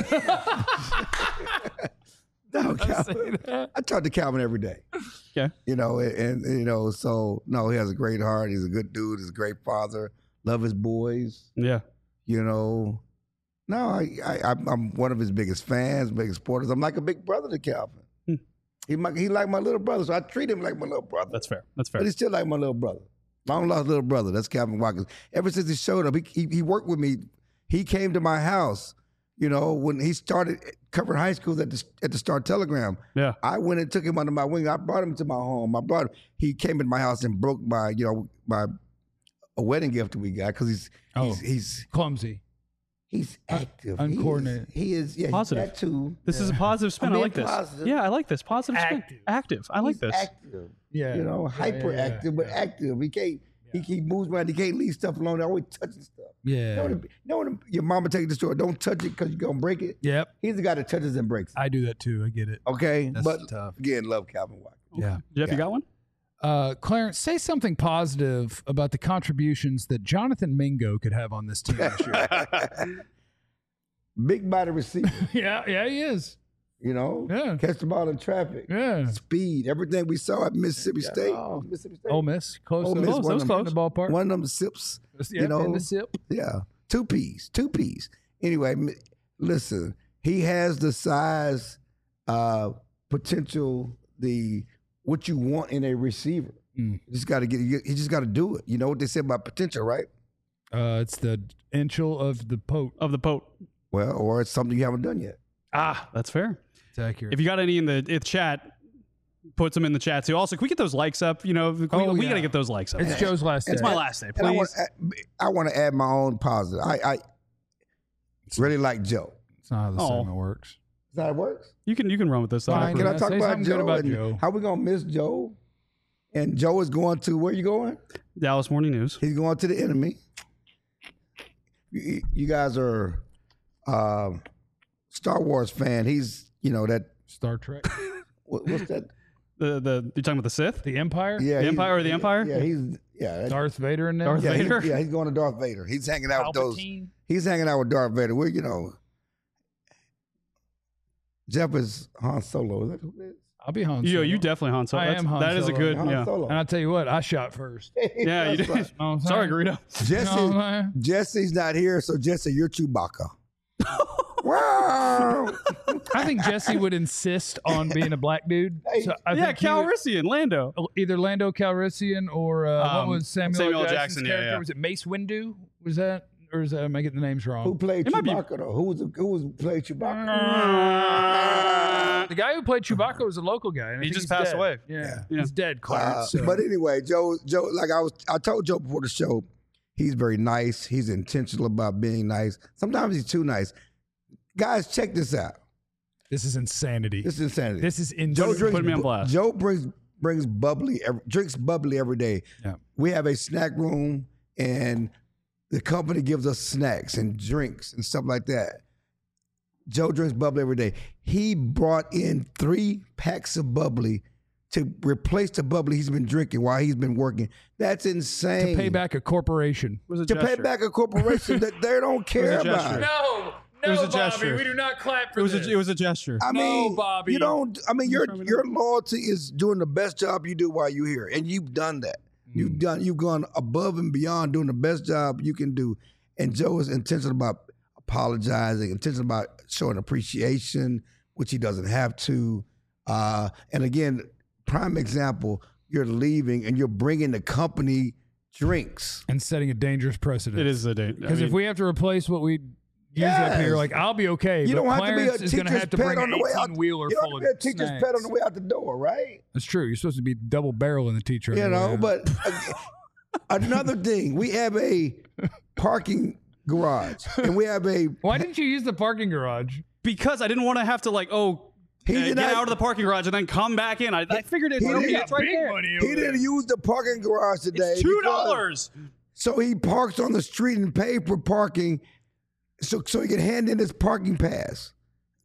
No, Calvin. I talk to Calvin every day. Okay. You know, and, and you know, so no, he has a great heart. He's a good dude. He's a great father. Love his boys. Yeah. You know, no, I, I I'm- I'm one of his biggest fans, biggest supporters. I'm like a big brother to Calvin. Hmm. He my, he like my little brother, so I treat him like my little brother. That's fair. That's fair. But he's still like my little brother. Long lost little brother. That's Calvin Watkins. Ever since he showed up, he, he he worked with me. He came to my house. You know, when he started covering high schools at the at the Star Telegram. Yeah. I went and took him under my wing. I brought him to my home. I brought him. He came in my house and broke my, you know, my a wedding gift we got because he's Oh. he's he's Clumsy. he's active. uncoordinated. He is, he is yeah, Positive. He's that too. This is a positive spin. I'm I being like this. positive. Yeah, I like this. Positive spin. Active. Active. I like He's this. active. Yeah. You know, Yeah, yeah, yeah, hyperactive, but yeah. active. He can't. He, he moves around. He can't leave stuff alone. They're always touching stuff. You Yeah. know, when, you know when your mama take you to the store, don't touch it because you're gonna break it. Yep. He's the guy that touches and breaks it. I do that too. I get it. Okay, That's but tough. again, love Calvin Watkins. Yeah. Jeff, Yeah. you got one? Uh, Clarence, say something positive about the contributions that Jonathan Mingo could have on this team this year. Big body receiver. yeah, yeah, he is. You know, Yeah. catch the ball in traffic, Yeah. speed, everything we saw at Mississippi State. Oh. Mississippi State. Ole Miss, close. Ole to Miss, close, one those of close. them- in the ballpark. One of them sips. Yeah, you know, in the sip. Yeah, two P's, two P's. Anyway, m- listen, he has the size, uh, potential, the what you want in a receiver. Mm. You just got to get. You you just got to do it. You know what they say about potential, right? Uh, it's the inchel of the pote. Of the Pope. Well, or it's something you haven't done yet. Ah, that's fair. It's accurate. If you got any in the, in the chat, put some in the chat too. Also, can we get those likes up? You know, we, Oh, we yeah. got to get those likes up. it's Joe's last day. It's my last day, And I want, please. I want to add my own positive. I, I really like Joe. It's not how the Oh. segment works. Is that how it works? You can you can run with this. Fine. Fine. Can I Yeah, talk say about something good Joe? about and Joe. How we gonna miss Joe? And Joe is going to where you going? Dallas Morning News. He's going to the enemy. You, you guys are um Star Wars fan. He's you know that Star Trek. what, what's that? The the you talking about the Sith? The Empire? Yeah, The he's- Empire or the Empire? Yeah, he's yeah. that- Darth Vader in there? Darth yeah, he's- Vader? yeah, he's going to Darth Vader. He's hanging out with those. Palpatine? He's hanging out with Darth Vader. We're you know. Jeff is Han Solo. Is that who it is? I'll be Han Yo, Solo. you definitely Han Solo. I That's- am Han That is a Solo. good. Han Yeah. Solo. And I'll tell you what, I shot first. Yeah, you That's did. right. Know what I'm Sorry, saying? Greedo. Jesse, Know what I'm saying? Jesse's not here, so Jesse, you're Chewbacca. Wow. I think Jesse would insist on being a black dude. So I Yeah, think he would- Calrissian, Lando. either Lando Calrissian or uh, Um, what was Samuel, Samuel L. L. Jackson's Jackson, yeah, character? yeah. Was it Mace Windu? Was that, or is that am I getting the names Who wrong? played It might be- Chewbacca though? Who was the, who was played Chewbacca? The guy who played Chewbacca was a local guy. and I He think just he's passed dead. away. Yeah, Yeah. he's dead, Uh, Clarence. so- But anyway, Joe, Joe, like I was, I told Joe before the show, he's very nice. He's intentional about being nice. Sometimes he's too nice. Guys, check this out. this is insanity. This is insanity. This is Joe insanity. drinks. Put me on blast. Joe brings brings bubbly, every, drinks bubbly every day. Yeah. We have a snack room, and the company gives us snacks and drinks and stuff like that. Joe drinks bubbly every day. He brought in three packs of bubbly to replace the bubbly he's been drinking while he's been working. That's insane. to pay back a corporation. It was a to gesture. pay back a corporation that they don't care a about. gesture. No, It was a gesture. do not clap for It was a, it was a gesture. I No, mean, Bobby. you don't. I mean, your trying to- your loyalty is doing the best job you do while you're here, and you've done that. You've done. You've gone above and beyond doing the best job you can do. And Joe is intentional about apologizing, intentional about showing appreciation, which he doesn't have to. Uh, and again, prime example: you're leaving and you're bringing the company drinks. and setting a dangerous precedent. It is a day. Because if we have to replace what we use up here, Yes. like I'll be okay. You but don't have Clarence to be a is going to teacher's have to pet bring on an the way out. eighteen wheeler You don't full have of to be a teacher's snacks. pet on the way out the door, right? That's true. You're supposed to be double barreling the teacher. on You the way know, out. but uh, another thing, we have a parking garage, and we have a. why didn't you use the parking garage? because I didn't want to have to like oh He uh, did get not- out of the parking garage and then come back in. I, I figured it's, He okay, did- it's right there. He didn't use the parking garage today. It's two because- dollars. So he parks on the street and pay for parking, so so he can hand in his parking pass.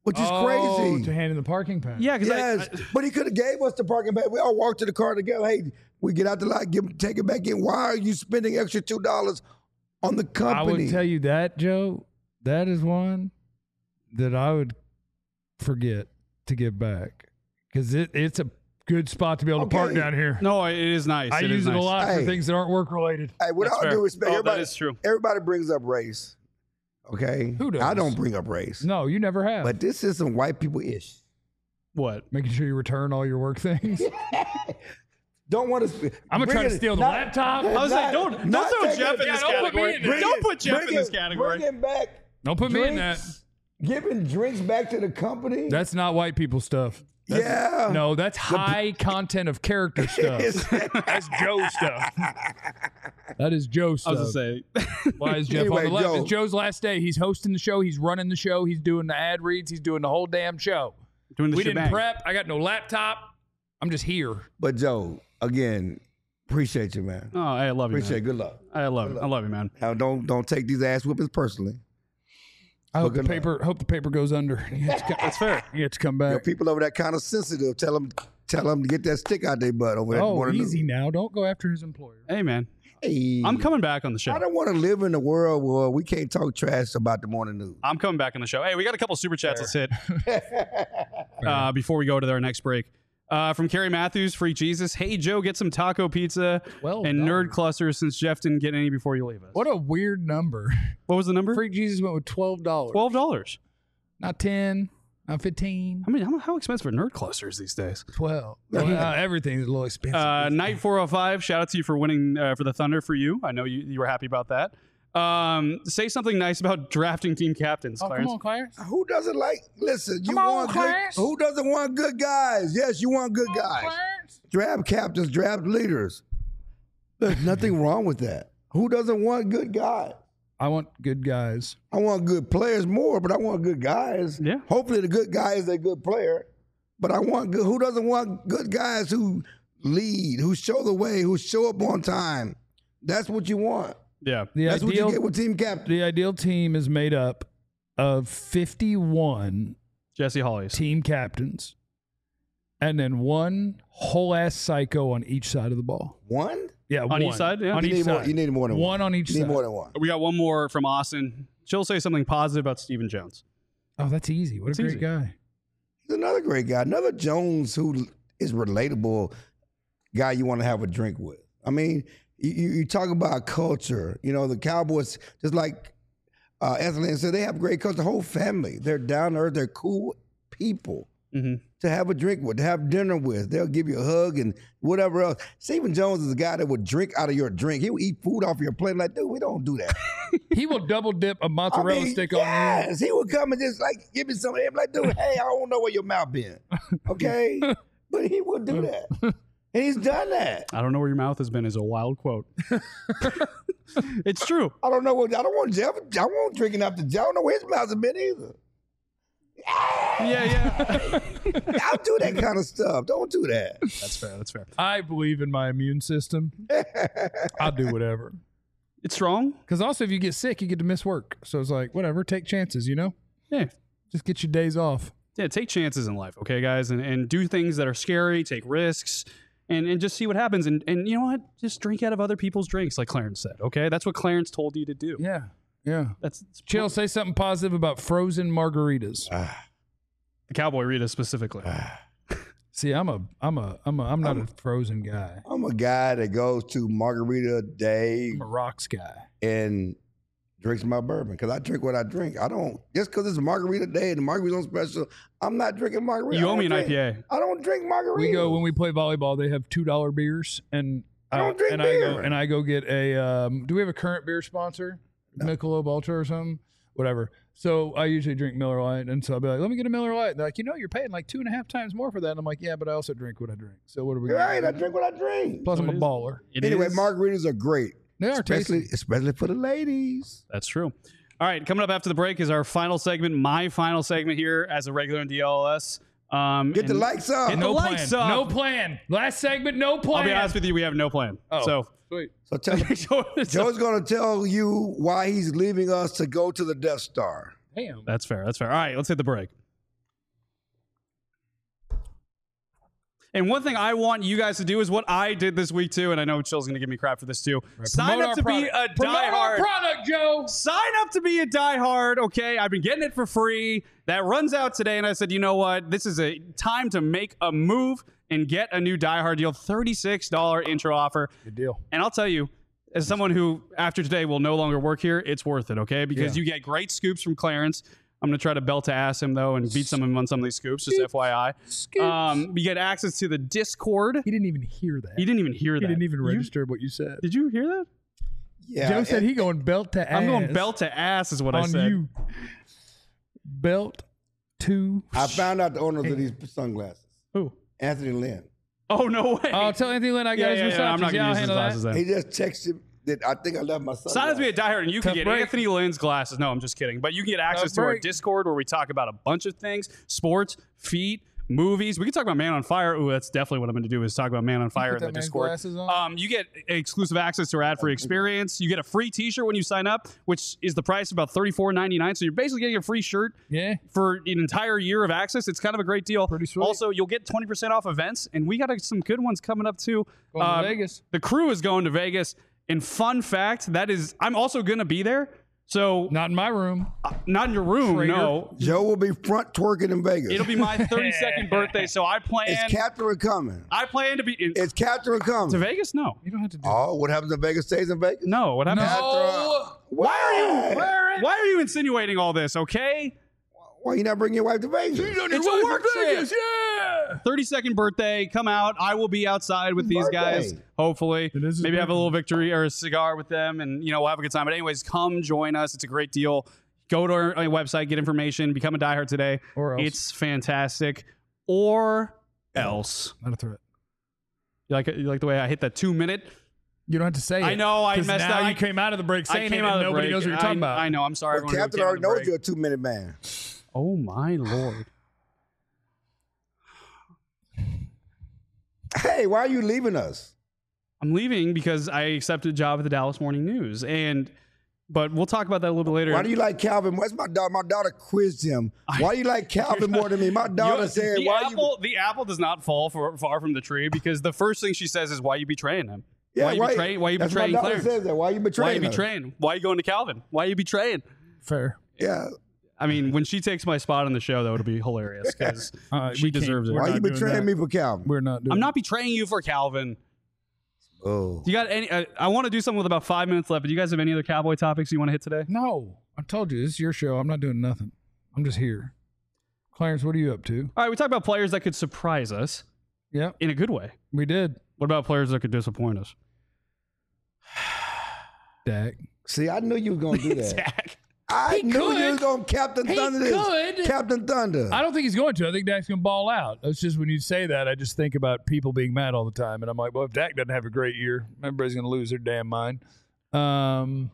which is oh, crazy. to hand in the parking pass. Yeah, because Yes, I, I, but he could have gave us the parking pass. We all walked to the car together. Hey, we get out the lot, give, take it back in. Why are you spending extra two dollars on the company? I would tell you that, Joe. That is one that I would forget to give back because it, it's a good spot to be able to park Okay. down here. no, it is nice. I it use is it nice. a lot Hey. for things that aren't work related. Hey, with That's all fair. due respect, Oh, that everybody, is true. everybody brings up race. Okay, Who does? I don't bring up race, No, you never have. but this is some white people ish. What? Making sure you return all your work things. Don't want to. I'm gonna try to steal the laptop. I was like, don't don't not throw taking Jeff it- in Yeah, this don't put me category. in there. Don't put Jeff Bring in this it- category. Bringing back. Don't put me in that. drinks, Giving drinks back to the company. That's not white people stuff. That's, yeah. No, that's high content of character stuff. That's Joe stuff. That is Joe I stuff. was going to say. Why is Jeff Anyway, on the left? Joe. It's Joe's last day. He's hosting the show. He's running the show. He's doing the ad reads. He's doing the whole damn show. Doing the we shebang. didn't prep. I got no laptop. I'm just here. But Joe, again, appreciate you, man. Oh, I love you, Appreciate. man. Good luck. I love it. I love you, man. Now, don't don't take these ass whippings personally. I hope the good paper. Hope the paper goes under. That's fair. You have to come Your back. people over there kind of sensitive. Tell them tell them to get that stick out their butt over there. Oh, easy now. Don't go after his employer. Hey, man. Hey, I'm coming back on the show. I don't want to live in a world where we can't talk trash about the morning news. I'm coming back on the show. Hey, we got a couple super chats. Let's hit uh, before we go to our next break. Uh, from Carrie Matthews, Freak Jesus. Hey, Joe, get some taco pizza Well and done. nerd clusters since Jeff didn't get any before you leave us. What a weird number. What was the number? Freak Jesus went with twelve dollars. twelve dollars. Not ten. Not fifteen. I mean, how, how expensive are nerd clusters these days? Twelve. Well, uh, everything's a little expensive. Uh, Night four oh five, shout out to you for winning uh, for the Thunder for you. I know you, you were happy about that. Um, say something nice about drafting team captains, oh, Clarence. come on, Clarence. Who doesn't like? Listen, you Come on, want good. Clarence. Who doesn't want good guys? Yes, you want good guys. Clarence. Draft captains, draft leaders. There's nothing wrong with that. Who doesn't want good guys? I want good guys. I want good players more, but I want good guys. Yeah. Hopefully, the good guy is a good player. But I want good. Who doesn't want good guys who lead, who show the way, who show up on time? That's what you want. Yeah. The That's what ideal, you get with team captain. the ideal team is made up of fifty-one Jesse Hollies. team captains and then one whole ass psycho on each side of the ball. One? Yeah, On one. each side, yeah. On You each need more. side. You need more than one. One on each You need side. more than one. We got one more from Austin. She'll say something positive about Stephen Jones. Oh, that's easy. What It's a great easy. guy. He's another great guy. Another Jones who is relatable guy you want to have a drink with. I mean, you, you you talk about culture. You know, the Cowboys, just like uh, Anthony said, they have great culture. The whole family, they're down to earth. They're cool people Mm-hmm. to have a drink with, to have dinner with. They'll give you a hug and whatever else. Stephen Jones is a guy that would drink out of your drink. He would eat food off your plate. Like, dude, we don't do that. He will double dip a I mozzarella mean, stick on you. yes, he would come and just like give me some. I'm like, dude, hey, I don't know where your mouth been, okay? But he would do that, and he's done that. I don't know where your mouth has been is a wild quote. It's true. I don't know what I don't want Jeff. I won't drinking after Jeff. I don't know where his mouth has been either. Yeah, yeah. I'll do that kind of stuff. Don't do that. That's fair. That's fair. I believe in my immune system. I'll do whatever. It's strong. Because also, if you get sick, you get to miss work. So it's like, whatever, take chances, you know? Yeah. Just get your days off. Yeah, take chances in life, okay, guys? And, and do things that are scary, take risks, and, and just see what happens. And, and you know what? Just drink out of other people's drinks, like Clarence said, okay? That's what Clarence told you to do. Yeah. Yeah. That's it's Chill, say something positive about frozen margaritas. the Cowboy Rita specifically. See, I'm a, I'm a, I'm a, I'm not a frozen guy. I'm a guy that goes to Margarita Day I'm a rocks guy. and drinks my bourbon because I drink what I drink. I don't just because it's Margarita Day and the margarita's on special. I'm not drinking margarita. You I owe me don't an drink- I P A. I don't drink margarita. We go when we play volleyball. They have two dollar beers, and I don't uh, drink and beer. I go and I go get a. Um, do we have a current beer sponsor? Michelob Ultra or something, whatever. So I usually drink Miller Lite, and so I'll be like, "Let me get a Miller Lite." And they're like, "You know, you're paying like two and a half times more for that." And I'm like, "Yeah, but I also drink what I drink. So what are we?" You're gonna right. do? I drink what I drink. Plus, I'm a It is. baller. It Anyway, is- margaritas are great, They are especially tasty. especially for the ladies. That's true. All right, coming up after the break is our final segment, my final segment here as a regular in D L S. Um, Get the and likes up. Get the No plan. lights up. No plan. Last segment, no plan. I'll be honest with you, we have no plan. Oh, So, sweet. So tell Joe's going to tell you why he's leaving us to go to the Death Star. Damn. that's fair. That's fair. All right, let's hit the break. And one thing I want you guys to do is what I did this week too, and I know Chill's going to give me crap for this too. Sign Promote up our to be product. a Promote our diehard. product, Joe. Sign up to be a diehard, okay? I've been getting it for free. That runs out today, and I said, you know what? This is a time to make a move and get a new diehard deal. thirty-six dollars intro offer. Good deal. And I'll tell you, as someone who after today will no longer work here, it's worth it, okay? Because Yeah. you get great scoops from Clarence. I'm going to try to belt to ass him, though, and beat some of him on some of these scoops, just F Y I. Um, you get access to the Discord. He didn't even hear that. He didn't even hear He that. didn't even You- register what you said. Did you hear that? Yeah, Joe said and- he going belt to ass. I'm going belt to ass is what I on said. you. Belt to. I found out the owners of these sunglasses. Who? Anthony Lynn. Oh, no way. Oh, tell Anthony Lynn I got yeah, his yeah, yeah, Versace. I'm not Yeah, going I'll to use his handle that. glasses then. He just texted that I think I left my sunglasses. Sign up to be a diehard, and you can Tough get break. Anthony Lynn's glasses. No, I'm just kidding. But you can get access Tough to our break. Discord where we talk about a bunch of things: sports, feet, movies. We can talk about Man on Fire. Ooh, that's definitely what I'm going to do is talk about Man on Fire in put the that man's Discord. glasses on? Um, you get exclusive access to our ad-free experience. You get a free T-shirt when you sign up, which is the price of about thirty-four ninety-nine. So you're basically getting a free shirt Yeah. for an entire year of access. It's kind of a great deal. Pretty sweet. Also, you'll get twenty percent off events, and we got uh, some good ones coming up too. Going to Um, Vegas. The crew is going to Vegas. And fun fact, that is, I'm also going to be there. So Not in my room. uh, not in your room, Traitor. no. Joe will be front twerking in Vegas. It'll be my thirty-second birthday, so I plan. Is Catherine coming? I plan to be in, Is Catherine coming? to Vegas. No, You don't have to do Oh, what happens in Vegas stays in Vegas? no. What happens? No. Why are you? Why are you insinuating all this? Okay. Why you not bring your wife to Vegas? It's a work Vegas, trip. yeah. thirty-second birthday. Come out. I will be outside with these guys. Birthday. Hopefully, It is his maybe have a birthday. little victory or a cigar with them, and you know we'll have a good time. But anyways, come join us. It's a great deal. Go to our, our website, get information, become a diehard today. Or else. It's fantastic. Or else. Not a threat. You like it? You like the way I hit that two minute? You don't have to say it. I know, I 'cause messed now up. you I- came out of the break I saying came it out and of the nobody break. knows what you're I, talking about. I know. I'm sorry. Well, everyone who Captain came out already of the knows break. you're a two minute man. Oh my lord. Hey, why are you leaving us? I'm leaving because I accepted a job at the Dallas Morning News, and but we'll talk about that a little bit later. Why do you like Calvin? What's my daughter? My daughter quizzed him. Why do you like Calvin more than me? My daughter You- said, the "Why apple, the apple does not fall for, far from the tree because the first thing she says is, "Why are you betraying him? you?" why, are you betraying? Why are you that's betraying my daughter Clarence? says that. Why are you Why are betraying? you her? betraying? Why are you going to Calvin? Why are you betraying?" Fair. Yeah. I mean, when she takes my spot on the show, that would be hilarious because Uh, she we can't- deserves it. we're Why are not you doing betraying that. me for Calvin? We're not doing I'm not betraying you for Calvin. Oh. Do you got any? Uh, I want to do something with about five minutes left. But do you guys have any other Cowboy topics you want to hit today? No. I told you, this is your show. I'm not doing nothing. I'm just here. Clarence, what are you up to? All right, we talked about players that could surprise us Yep, in a good way. we did. What about players that could disappoint us? Dak. See, I knew you was gonna do that. Zach. I He knew could. you was gonna Captain He Thunder this. could. Captain Thunder. I don't think he's going to. I think Dak's going to ball out. It's just when you say that, I just think about people being mad all the time. And I'm like, well, if Dak doesn't have a great year, everybody's going to lose their damn mind. Um,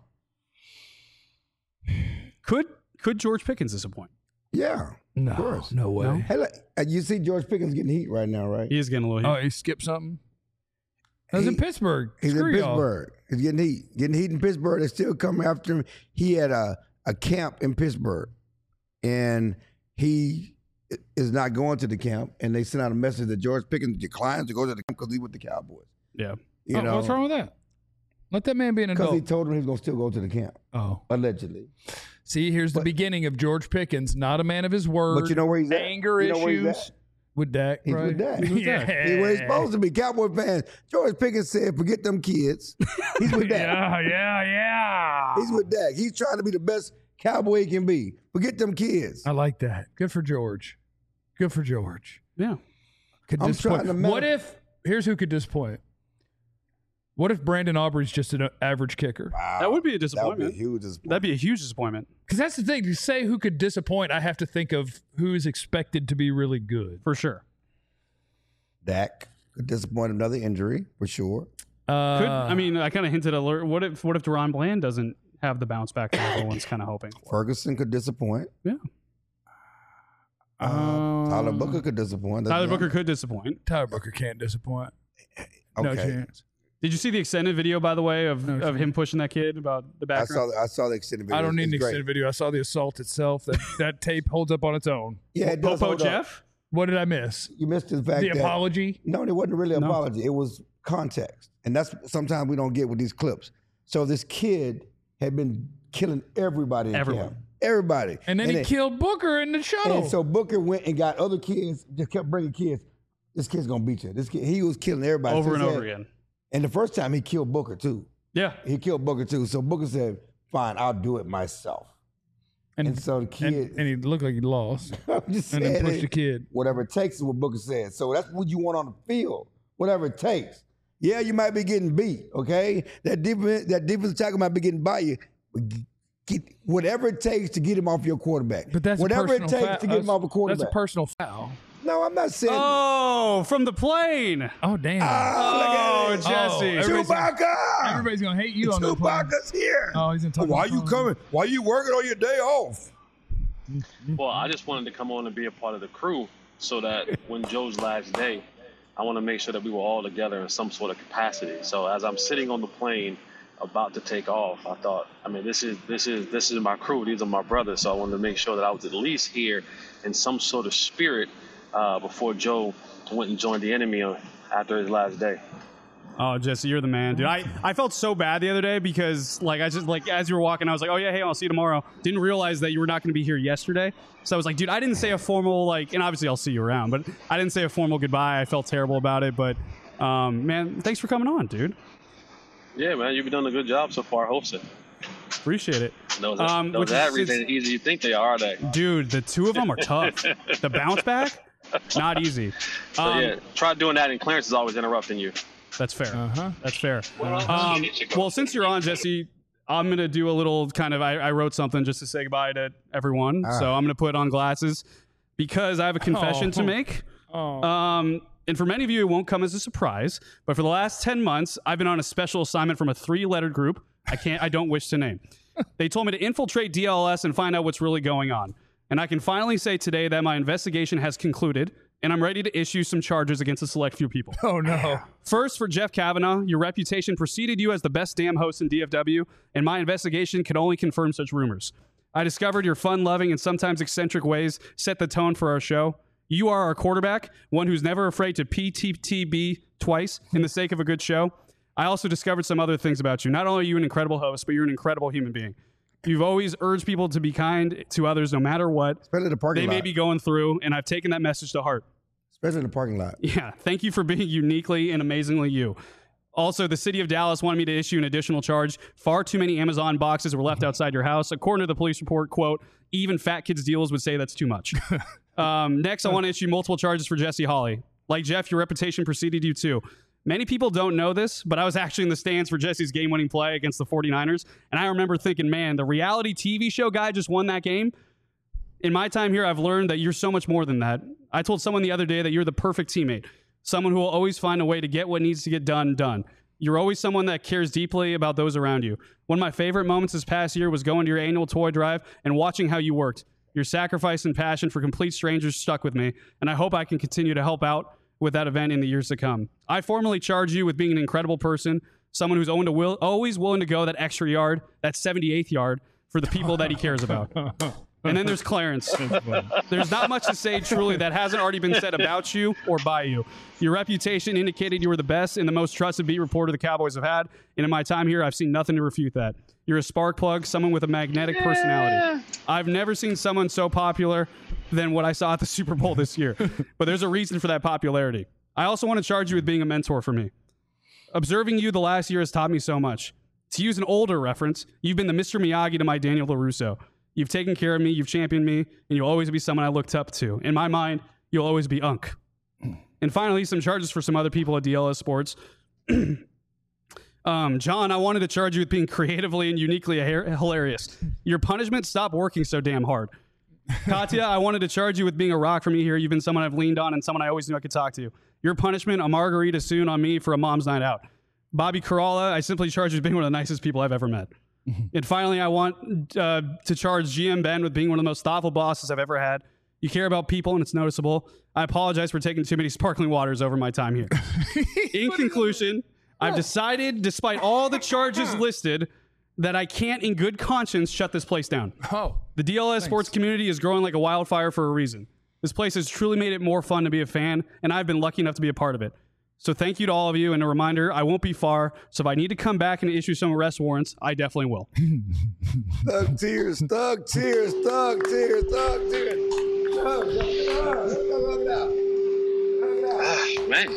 Could could George Pickens disappoint? Yeah. no, Of course. no way. No? Hey, look, uh, you see George Pickens getting heat right now, right? He is getting a little heat. Oh, he skipped something? That was He- in Pittsburgh. He's Screw in y'all. Pittsburgh. He's getting heat. Getting heat in Pittsburgh. They're still coming after him. He had a, a camp in Pittsburgh, and he is not going to the camp. And they sent out a message that George Pickens declines to go to the camp because he's with the Cowboys. Yeah. You Oh, know, what's wrong with that? Let that man be an because he adult. told him he was going to still go to the camp, Oh. allegedly. See, here's the But- beginning of George Pickens, not a man of his word. But you know where he's at? Anger You know where he's issues at? with Dak. He's right? with Dak. He's with Dak. He's where he's supposed to be. Cowboy fans. George Pickens said, forget them kids. He's with Dak. Yeah, yeah, yeah. He's with Dak. He's trying to be the best Cowboy he can be. Forget them kids. I like that. Good for George. Good for George. Yeah. Could I'm disappoint. trying to What manif- if, here's who could disappoint. What if Brandon Aubrey's just an average kicker? Wow. That would be a That would be a disappointment. huge disappointment. That'd be a huge disappointment Because that's the thing. To say who could disappoint, I have to think of who is expected to be really good. for sure. Dak could disappoint another injury for sure. Uh, Could I mean I kind of hinted alert. What if what if Deron Bland doesn't have the bounce back that everyone's kind of hoping for? Ferguson could disappoint. Yeah. Uh, Tyler Booker could disappoint. That's Tyler young. Booker could disappoint. Tyler Booker can't disappoint. No Okay. chance. Did you see the extended video, by the way, of, No, of sure. him pushing that kid about the I background? saw. I saw the extended video. I don't need an It's great. extended video. I saw the assault itself. That, that tape holds up on its own. Yeah, it does Popo hold up. Jeff? What did I miss? You missed the fact The that apology? no, it wasn't really an apology. It was context, and that's sometimes we don't get with these clips. So this kid had been killing everybody in Everyone. camp. Everybody. And then he it- killed Booker in the shuttle. And so Booker went and got other kids, just kept bringing kids. This kid's gonna beat you. This kid, he was killing everybody. Over So and he over said- again. And the first time he killed Booker too. Yeah. He killed Booker too. So Booker said, "Fine, I'll do it myself." and, And so the and, kid, and he looked like he lost. I'm just And then saying pushed it. the kid. Whatever it takes is what Booker said. So that's what you want on the field. Whatever it takes. Yeah, you might be getting beat. Okay, that defense, that defensive tackle might be getting by you. But get whatever it takes to get him off your quarterback. But that's whatever a it personal takes foul. to get him off a That's quarterback. a personal foul. no, I'm not saying. Oh, from the plane. Oh, damn. Ah, Oh, look at it. Jesse. everybody's gonna- Chewbacca! Everybody's going to hate you on that plane. Chewbacca's here. Oh, he's in talking Why you phone. coming? Why you working on your day off? Well, I just wanted to come on and be a part of the crew so that when Joe's last day, I want to make sure that we were all together in some sort of capacity. So as I'm sitting on the plane about to take off, I thought, I mean, this is this is this is my crew. These are my brothers. So I wanted to make sure that I was at least here in some sort of spirit uh, before Joe went and joined the enemy on- after his last day. Oh, Jesse, you're the man, dude. I, I felt so bad the other day because, like, I just, like, as you were walking, I was like, oh, yeah, hey, I'll see you tomorrow. Didn't realize that you were not going to be here yesterday. So I was like, dude, I didn't say a formal, like, and obviously I'll see you around, but I didn't say a formal goodbye. I felt terrible about it. But, um, man, thanks for coming on, dude. Yeah, man, you've been doing a good job so far hosting. Appreciate it. Those, Um, those which is- average is- ain't easy you think they are, are they? Dude, the two of them are tough. The bounce back, not easy. So Um, yeah, try doing that, and Clarence is always interrupting you. That's fair. Uh-huh. That's fair. Um, well, since you're on, Jesse, I'm going to do a little kind of, I, I wrote something just to say goodbye to everyone. So I'm going to put on glasses because I have a confession Oh. to make. Oh. Um, and for many of you, it won't come as a surprise, but for the last ten months, I've been on a special assignment from a three-lettered group I can't, I don't wish to name. They told me to infiltrate D L S and find out what's really going on. And I can finally say today that my investigation has concluded, and I'm ready to issue some charges against a select few people. Oh, no. First, for Jeff Kavanaugh, your reputation preceded you as the best damn host in D F W, and my investigation can only confirm such rumors. I discovered your fun-loving and sometimes eccentric ways set the tone for our show. You are our quarterback, one who's never afraid to P T T B twice in the sake of a good show. I also discovered some other things about you. Not only are you an incredible host, but you're an incredible human being. You've always urged people to be kind to others no matter what Especially the parking they lot. may be going through, and I've taken that message to heart. Especially in the parking lot. Yeah, thank you for being uniquely and amazingly you. Also, the city of Dallas wanted me to issue an additional charge. Far too many Amazon boxes were left outside your house. According to the police report, quote, even fat kids' deals would say that's too much. um, next, I want to issue multiple charges for Jesse Hawley. Like Jeff, your reputation preceded you too. Many people don't know this, but I was actually in the stands for Jesse's game-winning play against the 49ers, and I remember thinking, man, the reality T V show guy just won that game. In my time here, I've learned that you're so much more than that. I told someone the other day that you're the perfect teammate, someone who will always find a way to get what needs to get done, done. You're always someone that cares deeply about those around you. One of my favorite moments this past year was going to your annual toy drive and watching how you worked. Your sacrifice and passion for complete strangers stuck with me, and I hope I can continue to help out with that event in the years to come. I formally charge you with being an incredible person, someone who's to will, always willing to go that extra yard, that seventy-eighth yard, for the people that he cares about. And then there's Clarence. There's not much to say truly that hasn't already been said about you or by you. Your reputation indicated you were the best and the most trusted beat reporter the Cowboys have had, and in my time here, I've seen nothing to refute that. You're a spark plug, someone with a magnetic personality. I've never seen someone so popular than what I saw at the Super Bowl this year. But there's a reason for that popularity. I also want to charge you with being a mentor for me. Observing you the last year has taught me so much. To use an older reference, you've been the Mister Miyagi to my Daniel LaRusso. You've taken care of me, you've championed me, and you'll always be someone I looked up to. In my mind, you'll always be Unk. And finally, some charges for some other people at D L S Sports. um, John, I wanted to charge you with being creatively and uniquely hilarious. Your punishment, stop working so damn hard. Katya, I wanted to charge you with being a rock for me here. You've been someone I've leaned on and someone I always knew I could talk to. Your punishment, a margarita soon on me for a mom's night out. Bobby Caralla, I simply charge you with being one of the nicest people I've ever met. And finally, I want uh, to charge G M Ben with being one of the most thoughtful bosses I've ever had. You care about people, and it's noticeable. I apologize for taking too many sparkling waters over my time here. In conclusion, I've decided, despite all the charges listed, that I can't in good conscience shut this place down. Oh. The D L S sports community is growing like a wildfire for a reason. This place has truly made it more fun to be a fan, and I've been lucky enough to be a part of it. So thank you to all of you, and a reminder, I won't be far, so if I need to come back and issue some arrest warrants, I definitely will. Thug tears, thug tears, thug tears, thug tears. Thug, thug, thug, thug, thug. Man.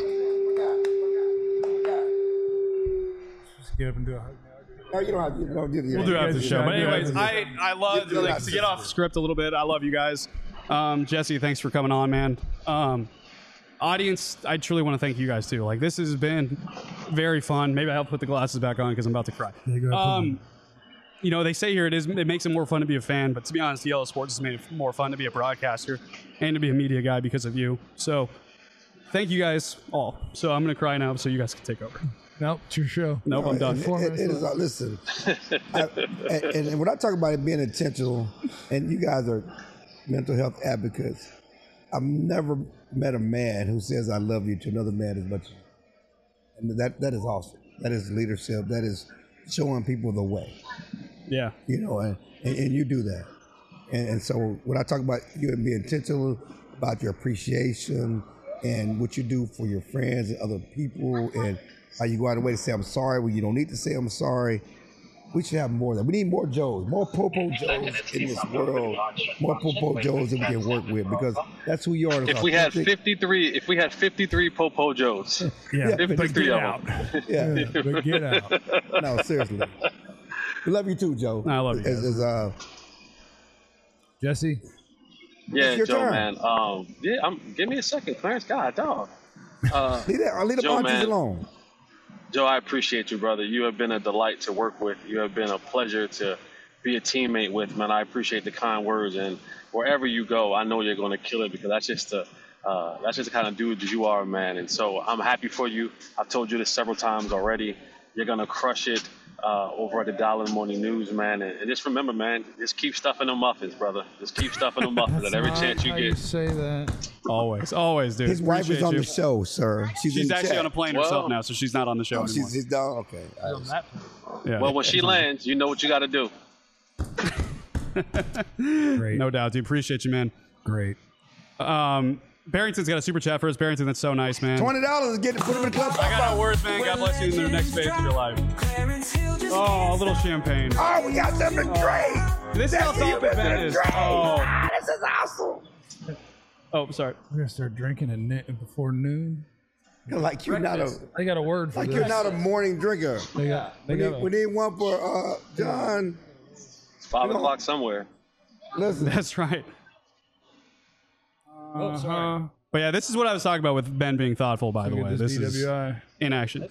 Just get up and do a hug. No, you don't have to. You don't do the We'll do after the show. But Yeah, anyways, yeah. I, I love, Yeah, like, to get off script a little bit, I love you guys. Um, Jesse, thanks for coming on, man. Um, audience, I truly want to thank you guys, too. Like, this has been very fun. Maybe I'll put the glasses back on because I'm about to cry. Yeah, go ahead, Um, you know, they say here it is. It makes it more fun to be a fan, but to be honest, Yellow Sports has made it more fun to be a broadcaster and to be a media guy because of you. So, thank you guys all. So I'm gonna cry now, so you guys can take over. Nope, it's your show. Nope, I'm done. It, it, it is, uh, listen, I, and, and when I talk about it being intentional, and you guys are mental health advocates, I've never met a man who says I love you to another man as much. And that that is awesome. That is leadership. That is showing people the way. Yeah. You know, and, and, and you do that. And, and so when I talk about you and being intentional about your appreciation and what you do for your friends and other people, and how you go out of the way to say I'm sorry when you don't need to say I'm sorry, we should have more of that. We need more Joes, more Popo Joes in this world, more Popo Joes that we can work with, because that's who you are. If we had fifty-three, if we had fifty-three Popo Joes, Yeah, but fifty-three get of out. them. Yeah. Yeah, but get out. No, seriously. We love you too, Joe. I love you guys. As, as, uh, Jesse, Yeah, It's your Joe, turn. man. Um, yeah, I'm. Give me a second, Clarence. God, dog. Uh, leave that, leave the Joe, monkeys man. alone. Joe, I appreciate you, brother. You have been a delight to work with. You have been a pleasure to be a teammate with, man. I appreciate the kind words, and wherever you go, I know you're going to kill it, because that's just the uh, that's just the kind of dude that you are, man. And so I'm happy for you. I've told you this several times already. You're going to crush it uh, over at the Dollar Morning News, man. And, and just remember, man, just keep stuffing them muffins, brother. Just keep stuffing them muffins at every Not chance you how get. You say that. Always, always, dude. His wife is Appreciate on you. the show, sir. She's, She's in the actually chat. on a plane Well- herself now, so she's not on the show Oh, anymore. she's, she's down? Okay. All right. Yeah. Well, when she lands, you know what you got to do. Great. No doubt, dude. Appreciate you, man. Great. Um, Barrington's got a super chat for us. Barrington, that's so nice, man. twenty dollars to get put him in the club. I got no words, man. God bless you in the next phase of your life. Oh, a little champagne. Oh, we got them to drink. This is how Jesse, you topic better that is. drink. Oh. Ah, this is awesome. Oh, sorry. We're gonna start drinking at ni- before noon. Like you're not a I got a word for like this. you're not a morning drinker. They got. They We got. need, a- we need one for uh, John. It's five o'clock somewhere. Listen, That's right. Oh, sorry. But yeah, this is what I was talking about with Ben being thoughtful, by the Look way. at This this is D W I. in action.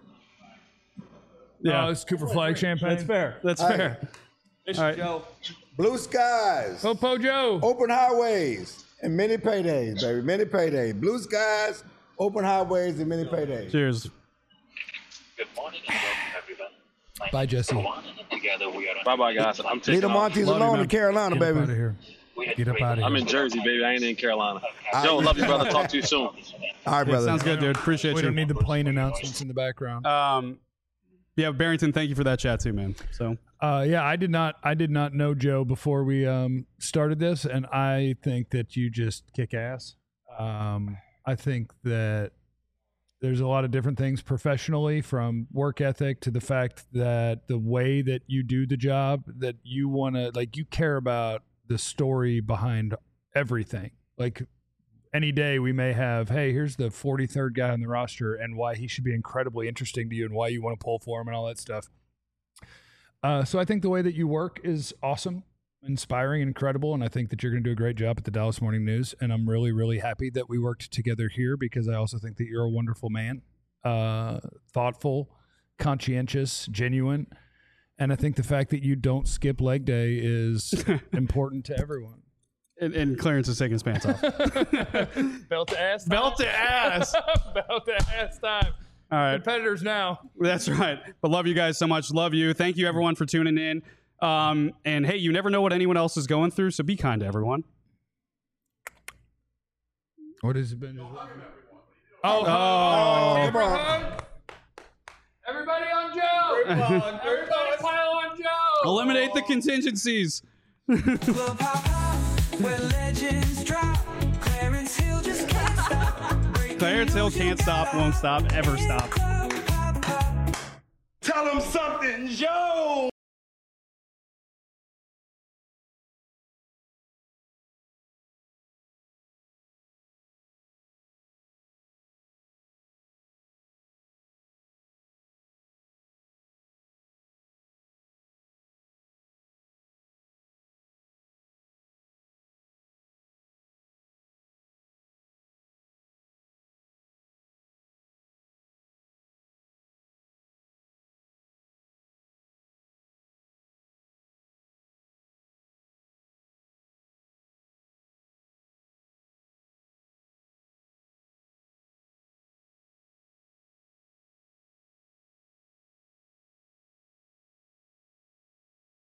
Yeah, Yeah, it's Cooper Flag champagne. that's fair. That's Hey. fair. All right. blue skies, Popo Joe. open highways, and many paydays, baby. Many paydays. Blue skies, open highways, and many paydays. Cheers. Good morning and welcome everyone. Bye, Jesse. Together we are Bye bye, guys. I'm Leave taking the off. Montes Love you, alone man. in Carolina, Get up out of baby. here. Get up out of I'm here. in Jersey, baby. I ain't in Carolina. Joe, love you, brother. Talk to you soon. All right, brother. Sounds good, dude. Appreciate We you. don't need the plane announcements in the background. Um, yeah, Barrington, thank you for that chat too, man. So Uh, yeah, I did not. I did not know Joe before we um, started this, and I think that you just kick ass. Um, I think that there's a lot of different things professionally, from work ethic to the fact that the way that you do the job, that you want to, like, you care about the story behind everything. Like, any day we may have, hey, here's the forty-third guy on the roster and why he should be incredibly interesting to you and why you want to pull for him and all that stuff. Uh, so I think the way that you work is awesome, inspiring, and incredible, and I think that you're going to do a great job at the Dallas Morning News, and I'm really, really happy that we worked together here, because I also think that you're a wonderful man, uh, thoughtful, conscientious, genuine, and I think the fact that you don't skip leg day is important to everyone. and, and Clarence is taking his pants off. Belt to ass. Belt to ass. Belt to ass time. All right. Competitors now. That's right. But love you guys so much. Love you. Thank you, everyone, for tuning in. Um, and hey, you never know what anyone else is going through, so be kind to everyone. What has it been? Oh, Come on. Everybody on Joe. Everybody pile on Joe. eliminate the contingencies. Club hop hop, where legends drop. Clarence Hill can't stop, won't stop, ever stop. Tell him something, Joe.